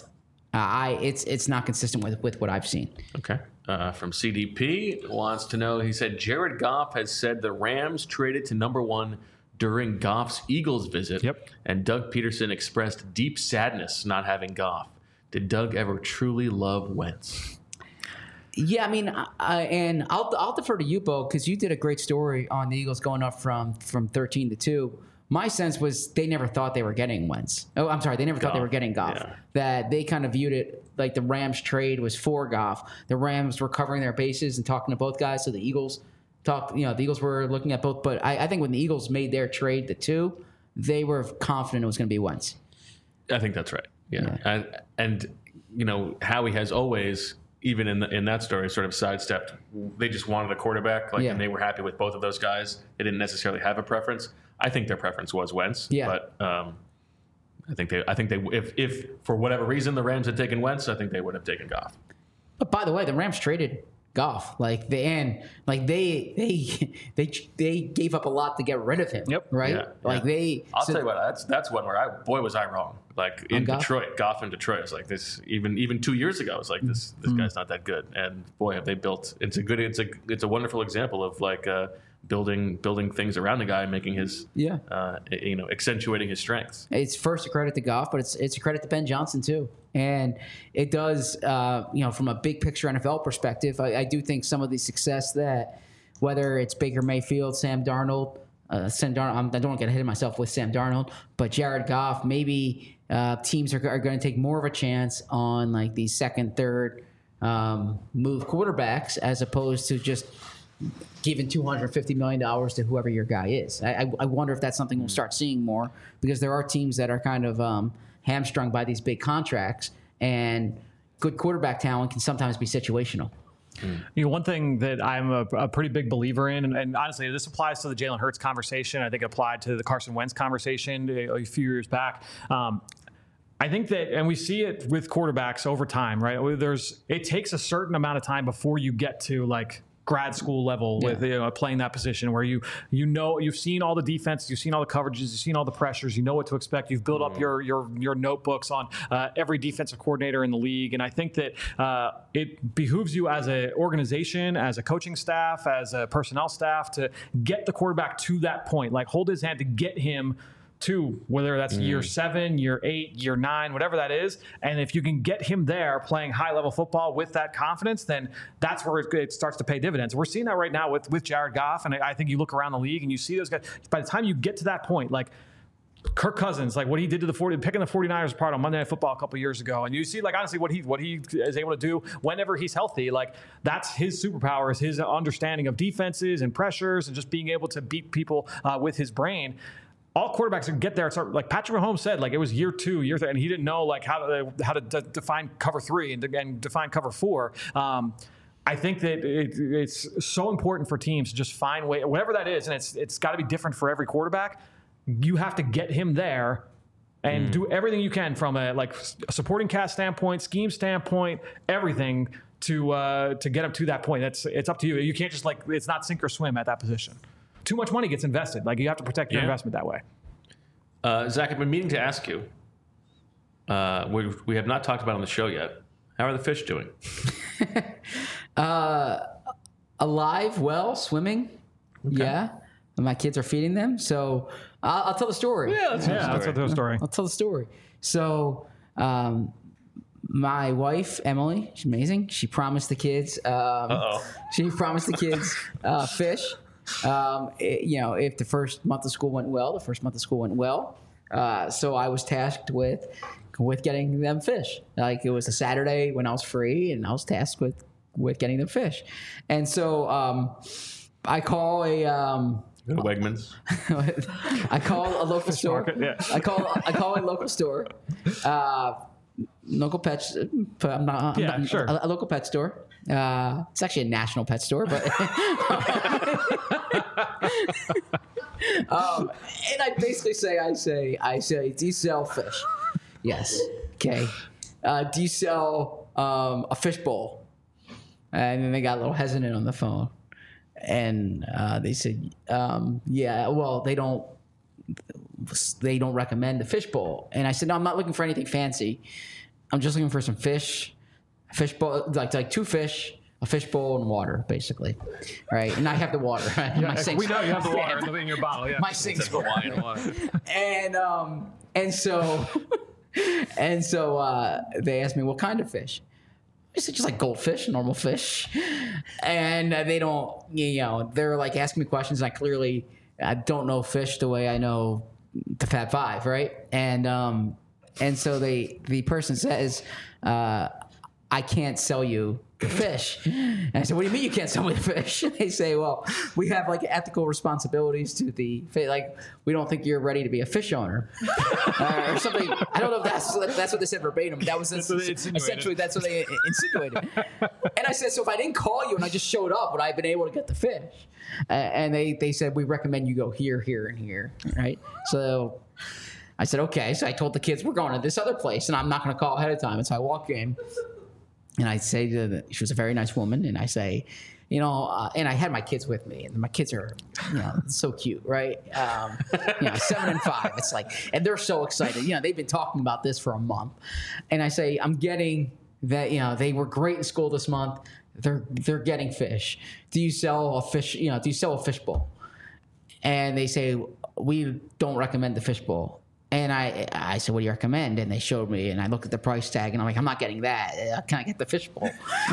it's not consistent with what I've seen. Okay. From CDP wants to know. He said Jared Goff has said the Rams traded to number 1 during Goff's Eagles visit. Yep. And Doug Peterson expressed deep sadness not having Goff. Did Doug ever truly love Wentz? Yeah, I mean, and I'll defer to you, Bo, because you did a great story on the Eagles going up from 13 to 2. My sense was they never thought they were getting Wentz. Oh, I'm sorry, they never thought they were getting Goff. Yeah. That they kind of viewed it like the Rams trade was for Goff. The Rams were covering their bases and talking to both guys, so the Eagles the Eagles were looking at both. But I think when the Eagles made their trade, the 2, they were confident it was going to be Wentz. I think that's right. Yeah. And Howie has always, even in that story, sort of sidestepped. They just wanted a quarterback, and they were happy with both of those guys. They didn't necessarily have a preference. I think their preference was Wentz. Yeah. But I think they if for whatever reason the Rams had taken Wentz, I think they would have taken Goff. But by the way, the Rams traded Goff. They gave up a lot to get rid of him. Yep. Right. Yeah, I'll tell you what. That's one where was I wrong. Like in Detroit, Goff in Detroit. It's like this. Even 2 years ago, it's like this guy's not that good. And boy, have they built. It's a wonderful example of building things around the guy, making his accentuating his strengths. It's first a credit to Goff, but it's a credit to Ben Johnson too. And it does, from a big picture NFL perspective, I do think some of the success that, whether it's Baker Mayfield, Sam Darnold, I don't want to get ahead of myself with Sam Darnold, but Jared Goff, maybe teams are going to take more of a chance on these second, third move quarterbacks as opposed to just giving $250 million to whoever your guy is. I wonder if that's something we'll start seeing more, because there are teams that are kind of hamstrung by these big contracts, and good quarterback talent can sometimes be situational. One thing that I'm a pretty big believer in, and honestly, this applies to the Jalen Hurts conversation. I think it applied to the Carson Wentz conversation a few years back. I think that, and we see it with quarterbacks over time, right? It takes a certain amount of time before you get to grad school level with playing that position where you've seen all the defenses, you've seen all the coverages, you've seen all the pressures, you know what to expect. You've built up your notebooks on every defensive coordinator in the league, and I think that it behooves you as an organization, as a coaching staff, as a personnel staff to get the quarterback to that point, hold his hand to get him to whether that's year 7, year 8, year 9, whatever that is. And if you can get him there playing high-level football with that confidence, then that's where it starts to pay dividends. We're seeing that right now with Jared Goff, and I think you look around the league and you see those guys. By the time you get to that point, Kirk Cousins, what he did to picking the 49ers apart on Monday Night Football a couple years ago, and you see, honestly, what he is able to do whenever he's healthy, that's his superpower, is his understanding of defenses and pressures and just being able to beat people with his brain. All quarterbacks can get there. It's like Patrick Mahomes said, it was year 2, year 3, and he didn't know how to define cover 3 and define cover 4. I think that it's so important for teams to just find way, whatever that is, and it's got to be different for every quarterback. You have to get him there and do everything you can from a supporting cast standpoint, scheme standpoint, everything to get him to that point. It's up to you. You can't just it's not sink or swim at that position. Too much money gets invested. You have to protect your investment that way. Zach, I've been meaning to ask you. We have not talked about on the show yet. How are the fish doing? Alive, well, swimming. Okay. Yeah. My kids are feeding them. So I'll tell the story. Yeah, let's tell the story. I'll tell the story. So my wife Emily, she's amazing. She promised the kids. She promised the kids fish. If the first month of school went well, so I was tasked with getting them fish. Like, it was a Saturday when I was free, and I was tasked with getting them fish. And so I call Wegmans. I call a local store. Market, yeah. I call a local store. Local pets. Sure. A local pet store. It's actually a national pet store, but and I basically say, do you sell fish? Yes. Okay. Do you sell a fish bowl? And then they got a little hesitant on the phone, and they said, yeah. Well, they don't recommend the fish bowl. And I said, no, I'm not looking for anything fancy. I'm just looking for some fish bowl, like 2 fish, a fish bowl, and water, basically. Right? And I have the water. My sink's, we know you have the water in your bottle. Yeah. My sink's full. Hawaiian water. And so they asked me, what kind of fish? I said, just like goldfish, normal fish. And they don't, they're like asking me questions. And I don't know fish the way I know the Fab Five, right? And so the person says, I can't sell you the fish. And I said, what do you mean you can't sell me the fish? And they say, well, we have like ethical responsibilities to the fish. Like, we don't think you're ready to be a fish owner or something. I don't know if that's what they said verbatim. That was essentially that's what they insinuated. And I said, so if I didn't call you and I just showed up, would I have been able to get the fish? And they said, we recommend you go here, here, and here. Right? So I said, okay. So I told the kids, we're going to this other place, and I'm not going to call ahead of time. And so I walk in, and I say she was a very nice woman, and I say, and I had my kids with me, and my kids are, so cute, right? 7 and 5. It's like, and they're so excited. They've been talking about this for a month. And I say, I'm getting that, they were great in school this month. They're getting fish. Do you sell a fish? Do you sell a fish bowl? And they say, we don't recommend the fish bowl. And I said, what do you recommend? And they showed me, and I looked at the price tag, and I'm like, I'm not getting that. Can I get the fish bowl?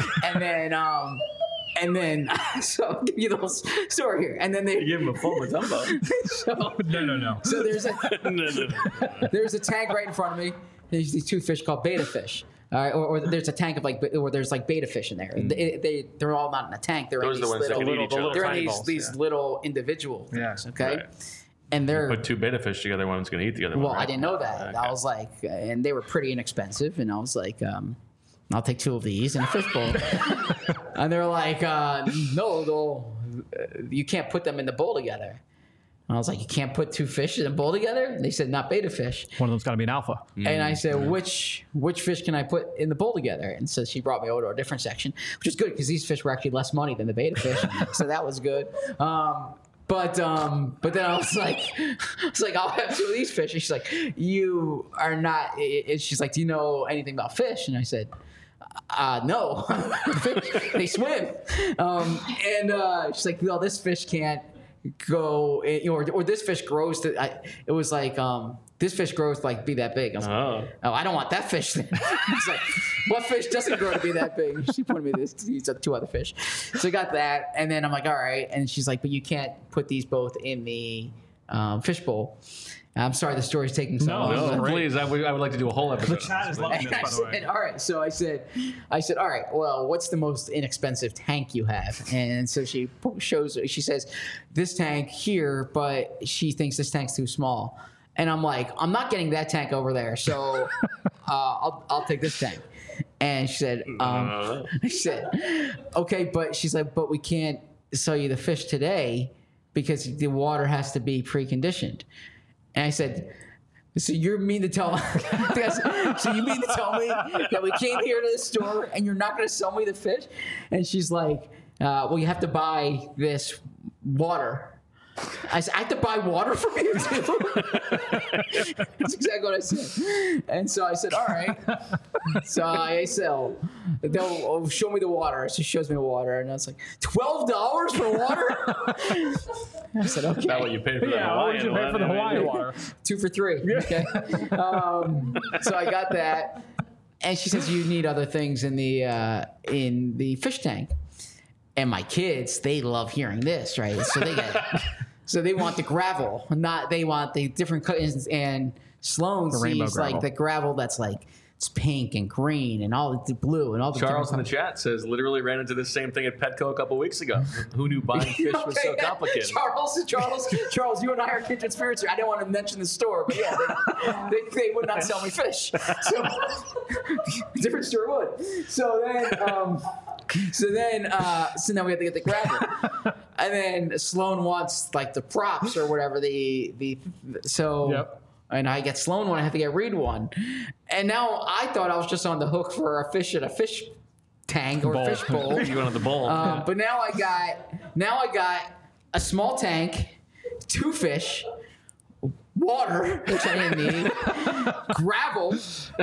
and then so I'll give you the whole story here. And then they give him a full Matumbo. No. So there's a No. there's a tank right in front of me. There's these 2 fish called beta fish. All right, or there's a tank of there's beta fish in there. They're all not in a tank. They're Those in are the these ones that can eat each other. they're in these little individual things. Okay. Right. And they're Put 2 beta fish together, one's going to eat the other one. well, right? I didn't know that. Okay. I was like, and they were pretty inexpensive, and I was like, I'll take 2 of these and a fish bowl. And they're like, no, you can't put them in the bowl together. And I was like, you can't put 2 fish in a bowl together? And they said, not beta fish. One of them's got to be an alpha. And I said, which fish can I put in the bowl together? And so she brought me over to a different section, which is good because these fish were actually less money than the beta fish. So that was good. But then I was like, I'll have 2 of these fish. And she's like, you are not. She's like, do you know anything about fish? And I said, no. They swim. And she's like, well, this fish can't go, or this fish grows to. It was like, this fish grows to like be that big. I was like, oh, I don't want that fish then. I was like, what fish doesn't grow to be that big? She pointed me these 2 other fish. So I got that, and then I'm like, all right. And she's like, but you can't put these both in the fish bowl. I'm sorry, the story's taking so long. No, please. I would like to do a whole episode. The chat is loving this, by the way. All right. So I said, all right, well, what's the most inexpensive tank you have? And so she says, this tank here, but she thinks this tank's too small. And I'm like, I'm not getting that tank over there, so I'll take this tank. And she said, okay, but she's like, but we can't sell you the fish today because the water has to be preconditioned. And I said, so you mean to tell me that we came here to the store and you're not going to sell me the fish? And she's like, well, you have to buy this water. I said, I have to buy water from you too? That's exactly what I said. And so I said, all right. So I said, they'll show me the water. She shows me the water. And I was like, $12 for water? I said, okay. Is that what you paid for the Hawaiian what did you pay for the Hawaiian water? 2 for $3. Okay. So I got that. And she says you need other things in the fish tank. And my kids, they love hearing this, right? So they want the gravel, they want the different colors. And Sloan sees like the gravel that's like it's pink and green and all the blue and all the. Charles in the chat says literally ran into this same thing at Petco a couple weeks ago. Who knew buying fish was so complicated? Charles, you and I are kindred spirits here. I didn't want to mention the store, but yeah, they would not sell me fish. So different store would. So now we have to get the gravel, and then Sloan wants like the props or whatever Yep. And I get Sloan one, I have to get Reed one, and now I thought I was just on the hook for a fish at a fish tank or a fish bowl. You went on the bowl, but now I got a small tank, 2 fish, water which I didn't need, gravel,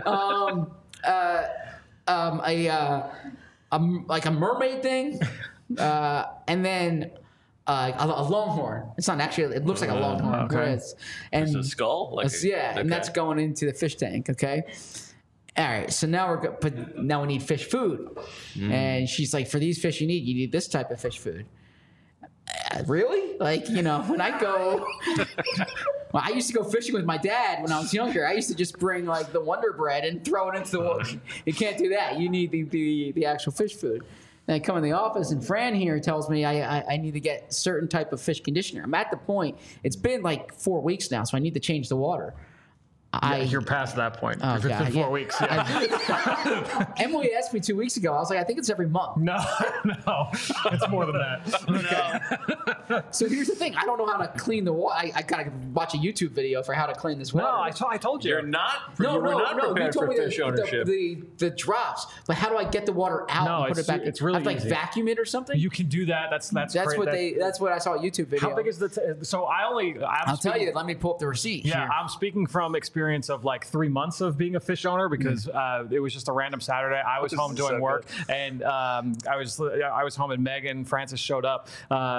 like a mermaid thing, and then a longhorn. It's not actually. It looks like a longhorn. Okay. It's a skull. And that's going into the fish tank. Okay. All right. So now now we need fish food, and she's like, for these fish, you need this type of fish food. Really? Like, when I go, well, I used to go fishing with my dad when I was younger. I used to just bring like the Wonder Bread and throw it into the water. You can't do that. You need the actual fish food. And I come in the office and Fran here tells me I need to get certain type of fish conditioner. I'm at the point, it's been like 4 weeks now, so I need to change the water. You're past that point. Oh, If it's been 4 weeks. Yeah. Emily asked me 2 weeks ago. I was like, I think it's every month. No, it's more than that. No. So here's the thing. I don't know how to clean the water. I gotta watch a YouTube video for how to clean this water. No, I told you. You're not. No, you were not you prepared told for me fish ownership. the drops. But how do I get the water out No, and put it back? it's really I have to, like easy. vacuum it or something. You can do that. That's That's great. That's what I saw a YouTube video. How big is the? So I'll tell you. Let me pull up the receipt. Yeah, here. I'm speaking from experience of like 3 months of being a fish owner because it was just a random Saturday. I was home doing work, and I was home, and Megan Francis showed up.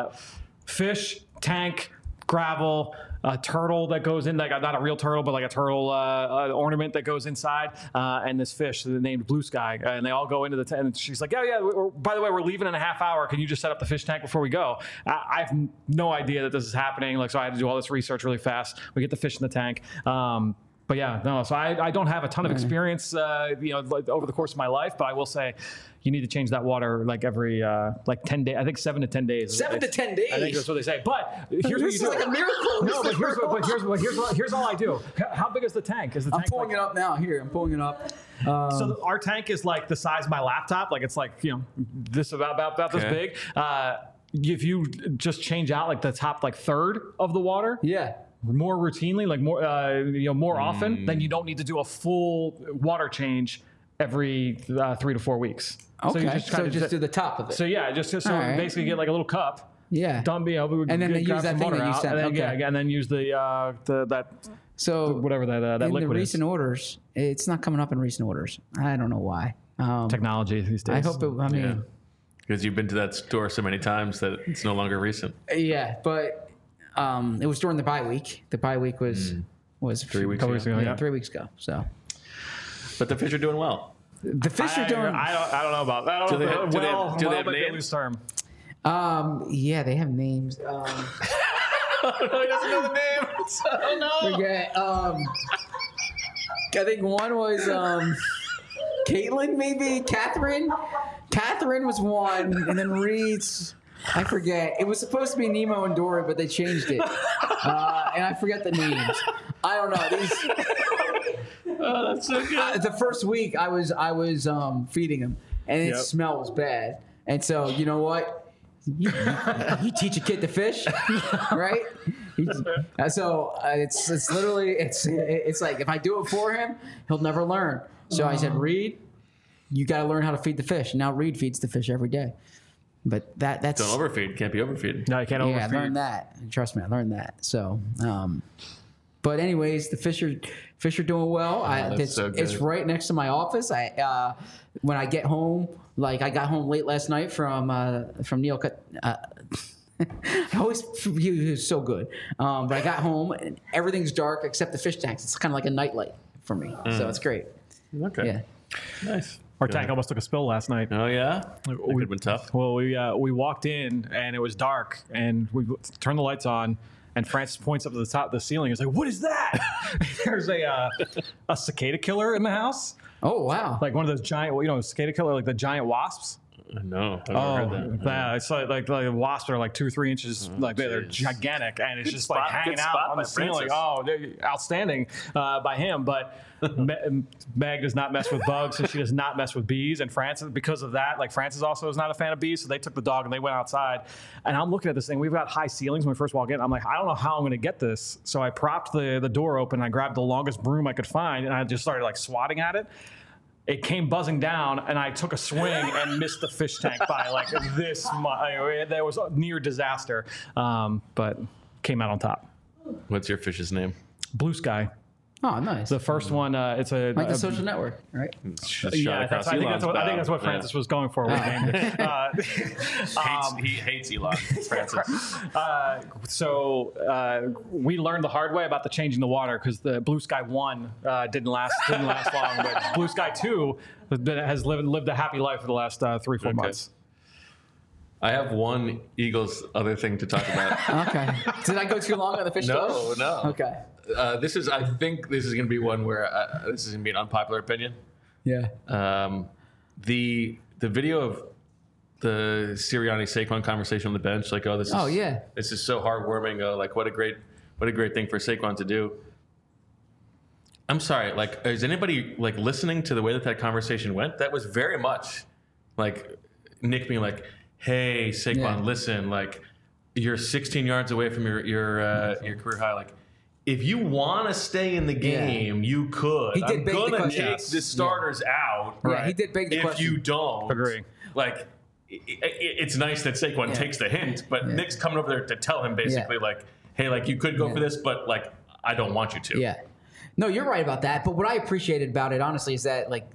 Fish tank, gravel, a turtle that goes in, like not a real turtle, but like a turtle ornament that goes inside, and this fish named Blue Sky, and they all go into the tent. And she's like, yeah. By the way, we're leaving in a half hour. Can you just set up the fish tank before we go? I have no idea that this is happening. Like, so I had to do all this research really fast. We get the fish in the tank. But yeah, no. So I don't have a ton of experience, like over the course of my life. But I will say, you need to change that water like every 10 days. I think 7 to 10 days. 7 to 10 days. I think that's what they say. But here's what you do. like a miracle. No, but here's all I do. How big is the tank? Is the I'm tank pulling it up now. Here, I'm pulling it up. So our tank is like the size of my laptop. Like it's like this about this big. If you just change out like the top like third of the water. Yeah. More routinely, like more often, then you don't need to do a full water change every 3 to 4 weeks. Okay. So just do the top of it. So yeah, just right. basically get like a little cup. Yeah. Dump, and then they use that thing that you said. And then, Okay. and then use whatever that in liquid the recent is. orders, it's not coming up in recent orders. I don't know why. Technology these days. I hope it. Because you've been to that store so many times that it's no longer recent. Yeah, but it was during the bye week. The bye week was 3 weeks ago. Yeah, 3 weeks ago. So, But the fish are doing well. the fish are doing. I don't know about that. Do they have might be a names? loose term. Yeah, they have names. He doesn't know the names. Oh no. Forget. I think one was Caitlin, maybe Catherine. Catherine was one, and then Reed's. I forget. It was supposed to be Nemo and Dory, but they changed it, and I forget the names. I don't know these. Oh, that's so good. The first week, I was feeding them, and its smell was bad. And so, you know what? You teach a kid to fish, right? So it's literally it's like if I do it for him, he'll never learn. So I said, Reed, you got to learn how to feed the fish. Now Reed feeds the fish every day. But that's Don't overfeed. Can't be overfeed. No, you can't yeah, I overfeed. learned that. Trust me, I learned that. So, but anyways, the fish are doing well. That's so good. It's right next to my office. When I get home, like I got home late last night from Neil. He was so good. But I got home and everything's dark except the fish tanks. It's kind of like a nightlight for me. So it's great. Okay. Yeah. Nice. Our Good. tank almost took a spill last night. Oh yeah, that could have been tough. Well, we walked in and it was dark, and we turned the lights on, and Francis points up to the top of the ceiling. He's like, "What is that?" There's a cicada killer in the house, Oh wow. like one of those giant, cicada killer, like the giant wasps. No, I've never heard that. Yeah, it's like wasps are like 2 or 3 inches, they're gigantic, and it's Good just like spot- hanging good out spot on by the ceiling. Francis. Oh, they're outstanding by him. But Meg does not mess with bugs, and she does not mess with bees. And Francis, because of that, like Francis also is not a fan of bees, so they took the dog and they went outside. And I'm looking at this thing. We've got high ceilings when we first walk in. I'm like, I don't know how I'm going to get this. So I propped the door open. And I grabbed the longest broom I could find, and I just started like swatting at it. It came buzzing down, and I took a swing and missed the fish tank by like this much. There was a near disaster, but came out on top. What's your fish's name? Blue Sky. Oh, nice. The first one, it's a Like the social network, right? Shot yeah. across I think Elon's that's bow. what Francis was going for. When he named it. He hates Elon, Francis. So we learned the hard way about the changing the water, because the Blue Sky 1 didn't last long, but Blue Sky 2 has lived a happy life for the last 3-4 months. I have one Eagles other thing to talk about. Okay. Did I go too long on the fish story? No. Okay. I think this is going to be one where this is going to be an unpopular opinion. Yeah. The video of the Sirianni Saquon conversation on the bench, like, this is so heartwarming. Like, what a great thing for Saquon to do. I'm sorry, like, is anybody like listening to the way that conversation went? That was very much like Nick being like, "Hey, Saquon, listen, like, you're 16 yards away from your career high. Like, if you want to stay in the game, you could. He did I'm beg the gonna question. take the starters out. Yeah, he did beg the if question. you don't, Agree. Like, it's nice that Saquon takes the hint, but Nick's coming over there to tell him basically like, "Hey, like, you could go for this, but like, I don't want you to." Yeah. No, you're right about that. But what I appreciated about it, honestly, is that like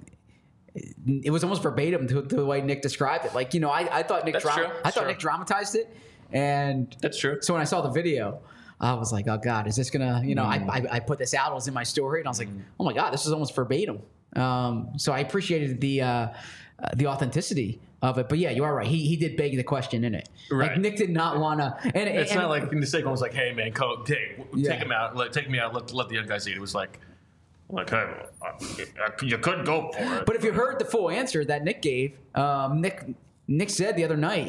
it was almost verbatim to the way Nick described it. Like, I thought Nick Nick dramatized it, and That's true. So when I saw the video, I was like, "Oh God, is this gonna?" I put this out. It was in my story, and I was like, "Oh my God, this is almost verbatim." So I appreciated the authenticity of it. But yeah, you are right. He did beg the question in it. Right. Like, Nick did not want to. And It's not like Saquon was like, "Hey man, take Yeah. him out, take me out, let the young guys eat." It was like, "Hey, you could go for it." But if you heard the full answer that Nick gave, Nick said the other night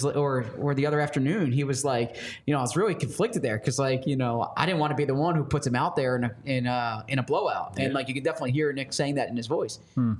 or the other afternoon, he was like, I was really conflicted there because I didn't want to be the one who puts him out there in a blowout, and like you could definitely hear Nick saying that in his voice.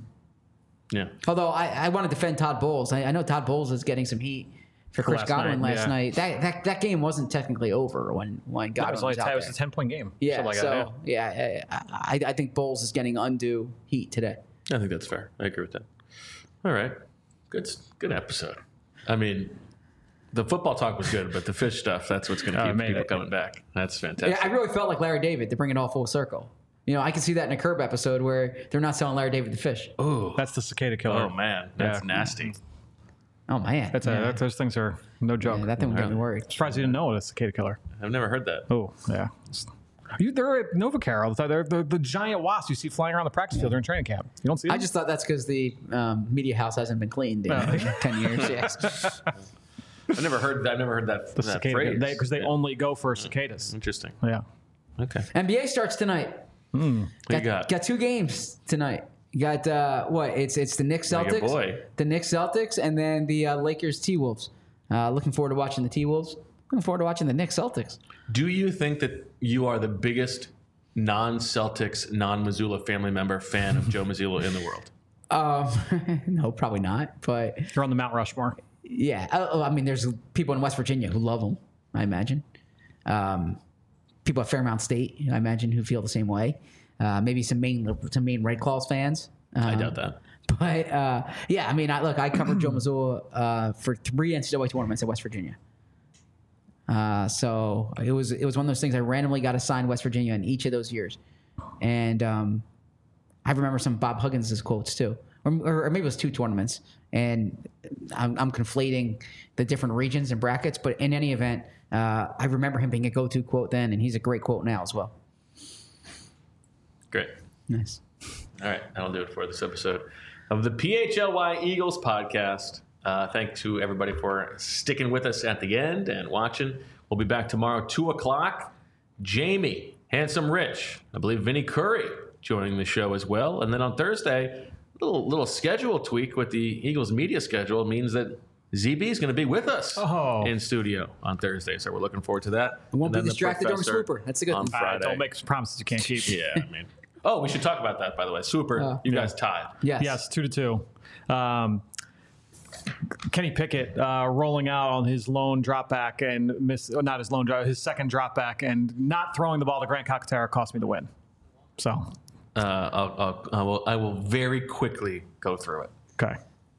Yeah. Although I want to defend Todd Bowles. I know Todd Bowles is getting some heat for Chris Godwin last night. That game wasn't technically over when Godwin was out there. It was a 10-point game. Yeah, Like so that, I think Bowles is getting undue heat today. I think that's fair. I agree with that. All right. Good episode. I mean, the football talk was good, but the fish stuff, that's what's going to keep people coming back. That's fantastic. Yeah, I really felt like Larry David to bring it all full circle. I can see that in a Curb episode where they're not selling Larry David the fish. Ooh. That's the cicada killer. Oh, man. That's nasty. Oh, man. Those things are no joke. Yeah, that thing would get me worried. Surprised you didn't know it, a cicada killer. I've never heard that. Oh, yeah. They're at NovaCare all the time. They're the giant wasps you see flying around the practice field during training camp. You don't see them? I just thought that's because the media house hasn't been cleaned in 10 years. Yes. I've never heard that, that phrase. Because they only go for cicadas. Interesting. Yeah. Okay. NBA starts tonight. What you got? Got 2 games tonight. You got It's the Knicks Celtics. Your boy. The Knicks Celtics, and then the Lakers T-Wolves. Looking forward to watching the T-Wolves. Looking forward to watching the Knicks Celtics. Do you think that you are the biggest non-Celtics, non-Missoula family member fan of Joe Mazzulla in the world? No, probably not. But You're on the Mount Rushmore. yeah, I mean, there's people in West Virginia who love him. I imagine. People at Fairmount State, I imagine, who feel the same way. Maybe some Maine Red Claws fans. I doubt that. But yeah, I mean, I covered Joe Mazzulla for 3 NCAA tournaments at West Virginia. So it was one of those things I randomly got assigned West Virginia in each of those years, and I remember some Bob Huggins' quotes too, or maybe it was 2 tournaments, and I'm conflating the different regions and brackets, but in any event, I remember him being a go-to quote then, and he's a great quote now as well. Great. Nice. All right, that'll do it for this episode of the PHLY Eagles podcast. Thanks to everybody for sticking with us at the end and watching. We'll be back tomorrow, 2 o'clock. Jamie, Handsome Rich, I believe Vinny Curry joining the show as well. And then on Thursday, little schedule tweak with the Eagles media schedule means that ZB is going to be with us in studio on Thursday. So we're looking forward to that. I won't be distracted during Swooper. That's a good on thing. Friday. Don't make promises you can't keep. Yeah, I mean. Oh, we should talk about that, by the way. Swooper, you guys tied. Yes, 2-2. Kenny Pickett rolling out on his lone drop back and his second drop back and not throwing the ball to Grant Calcaterra cost me the win. So I will very quickly go through it. Okay.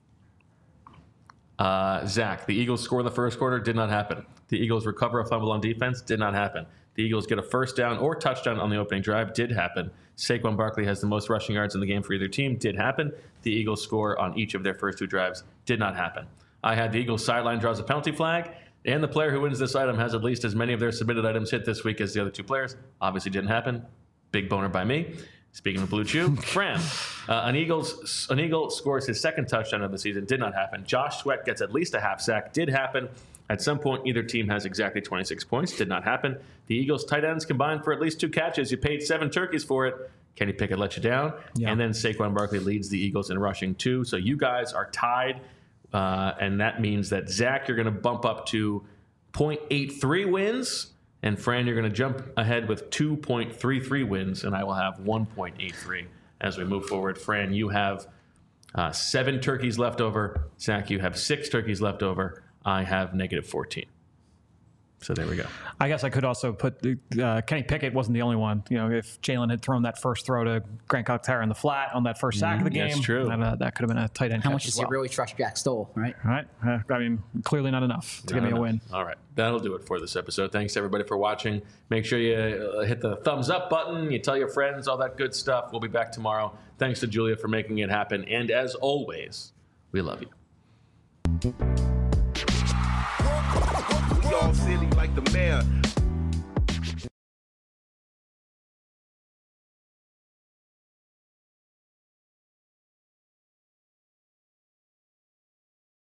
Zach, the Eagles score in the first quarter, did not happen. The Eagles recover a fumble on defense, did not happen. The Eagles get a first down or touchdown on the opening drive, did happen. Saquon Barkley has the most rushing yards in the game for either team, did happen. The Eagles score on each of their first 2 drives, did not happen. I had the Eagles sideline draws a penalty flag, and the player who wins this item has at least as many of their submitted items hit this week as the other 2 players. Obviously didn't happen. Big boner by me. Speaking of Blue Chew, Fran, an Eagle scores his second touchdown of the season, did not happen. Josh Sweat gets at least a half sack, did happen. At some point, either team has exactly 26 points, did not happen. The Eagles tight ends combined for at least 2 catches. You paid 7 turkeys for it. Kenny Pickett let you down. Yeah. And then Saquon Barkley leads the Eagles in rushing too. So you guys are tied. And that means that Zach, you're going to bump up to 0.83 wins. And Fran, you're going to jump ahead with 2.33 wins. And I will have 1.83 as we move forward. Fran, you have 7 turkeys left over. Zach, you have 6 turkeys left over. I have -14. So there we go. I guess I could also put Kenny Pickett wasn't the only one. You know, if Jalen had thrown that first throw to Grant Calcaterra in the flat on that first sack of the game, that's true. That could have been a tight end. How much does he really trust Jack Stoll, right? Right. I mean, clearly not enough to give me a win. All right. That'll do it for this episode. Thanks, everybody, for watching. Make sure you hit the thumbs up button. You tell your friends, all that good stuff. We'll be back tomorrow. Thanks to Julia for making it happen. And as always, we love you. We all silly like the mayor.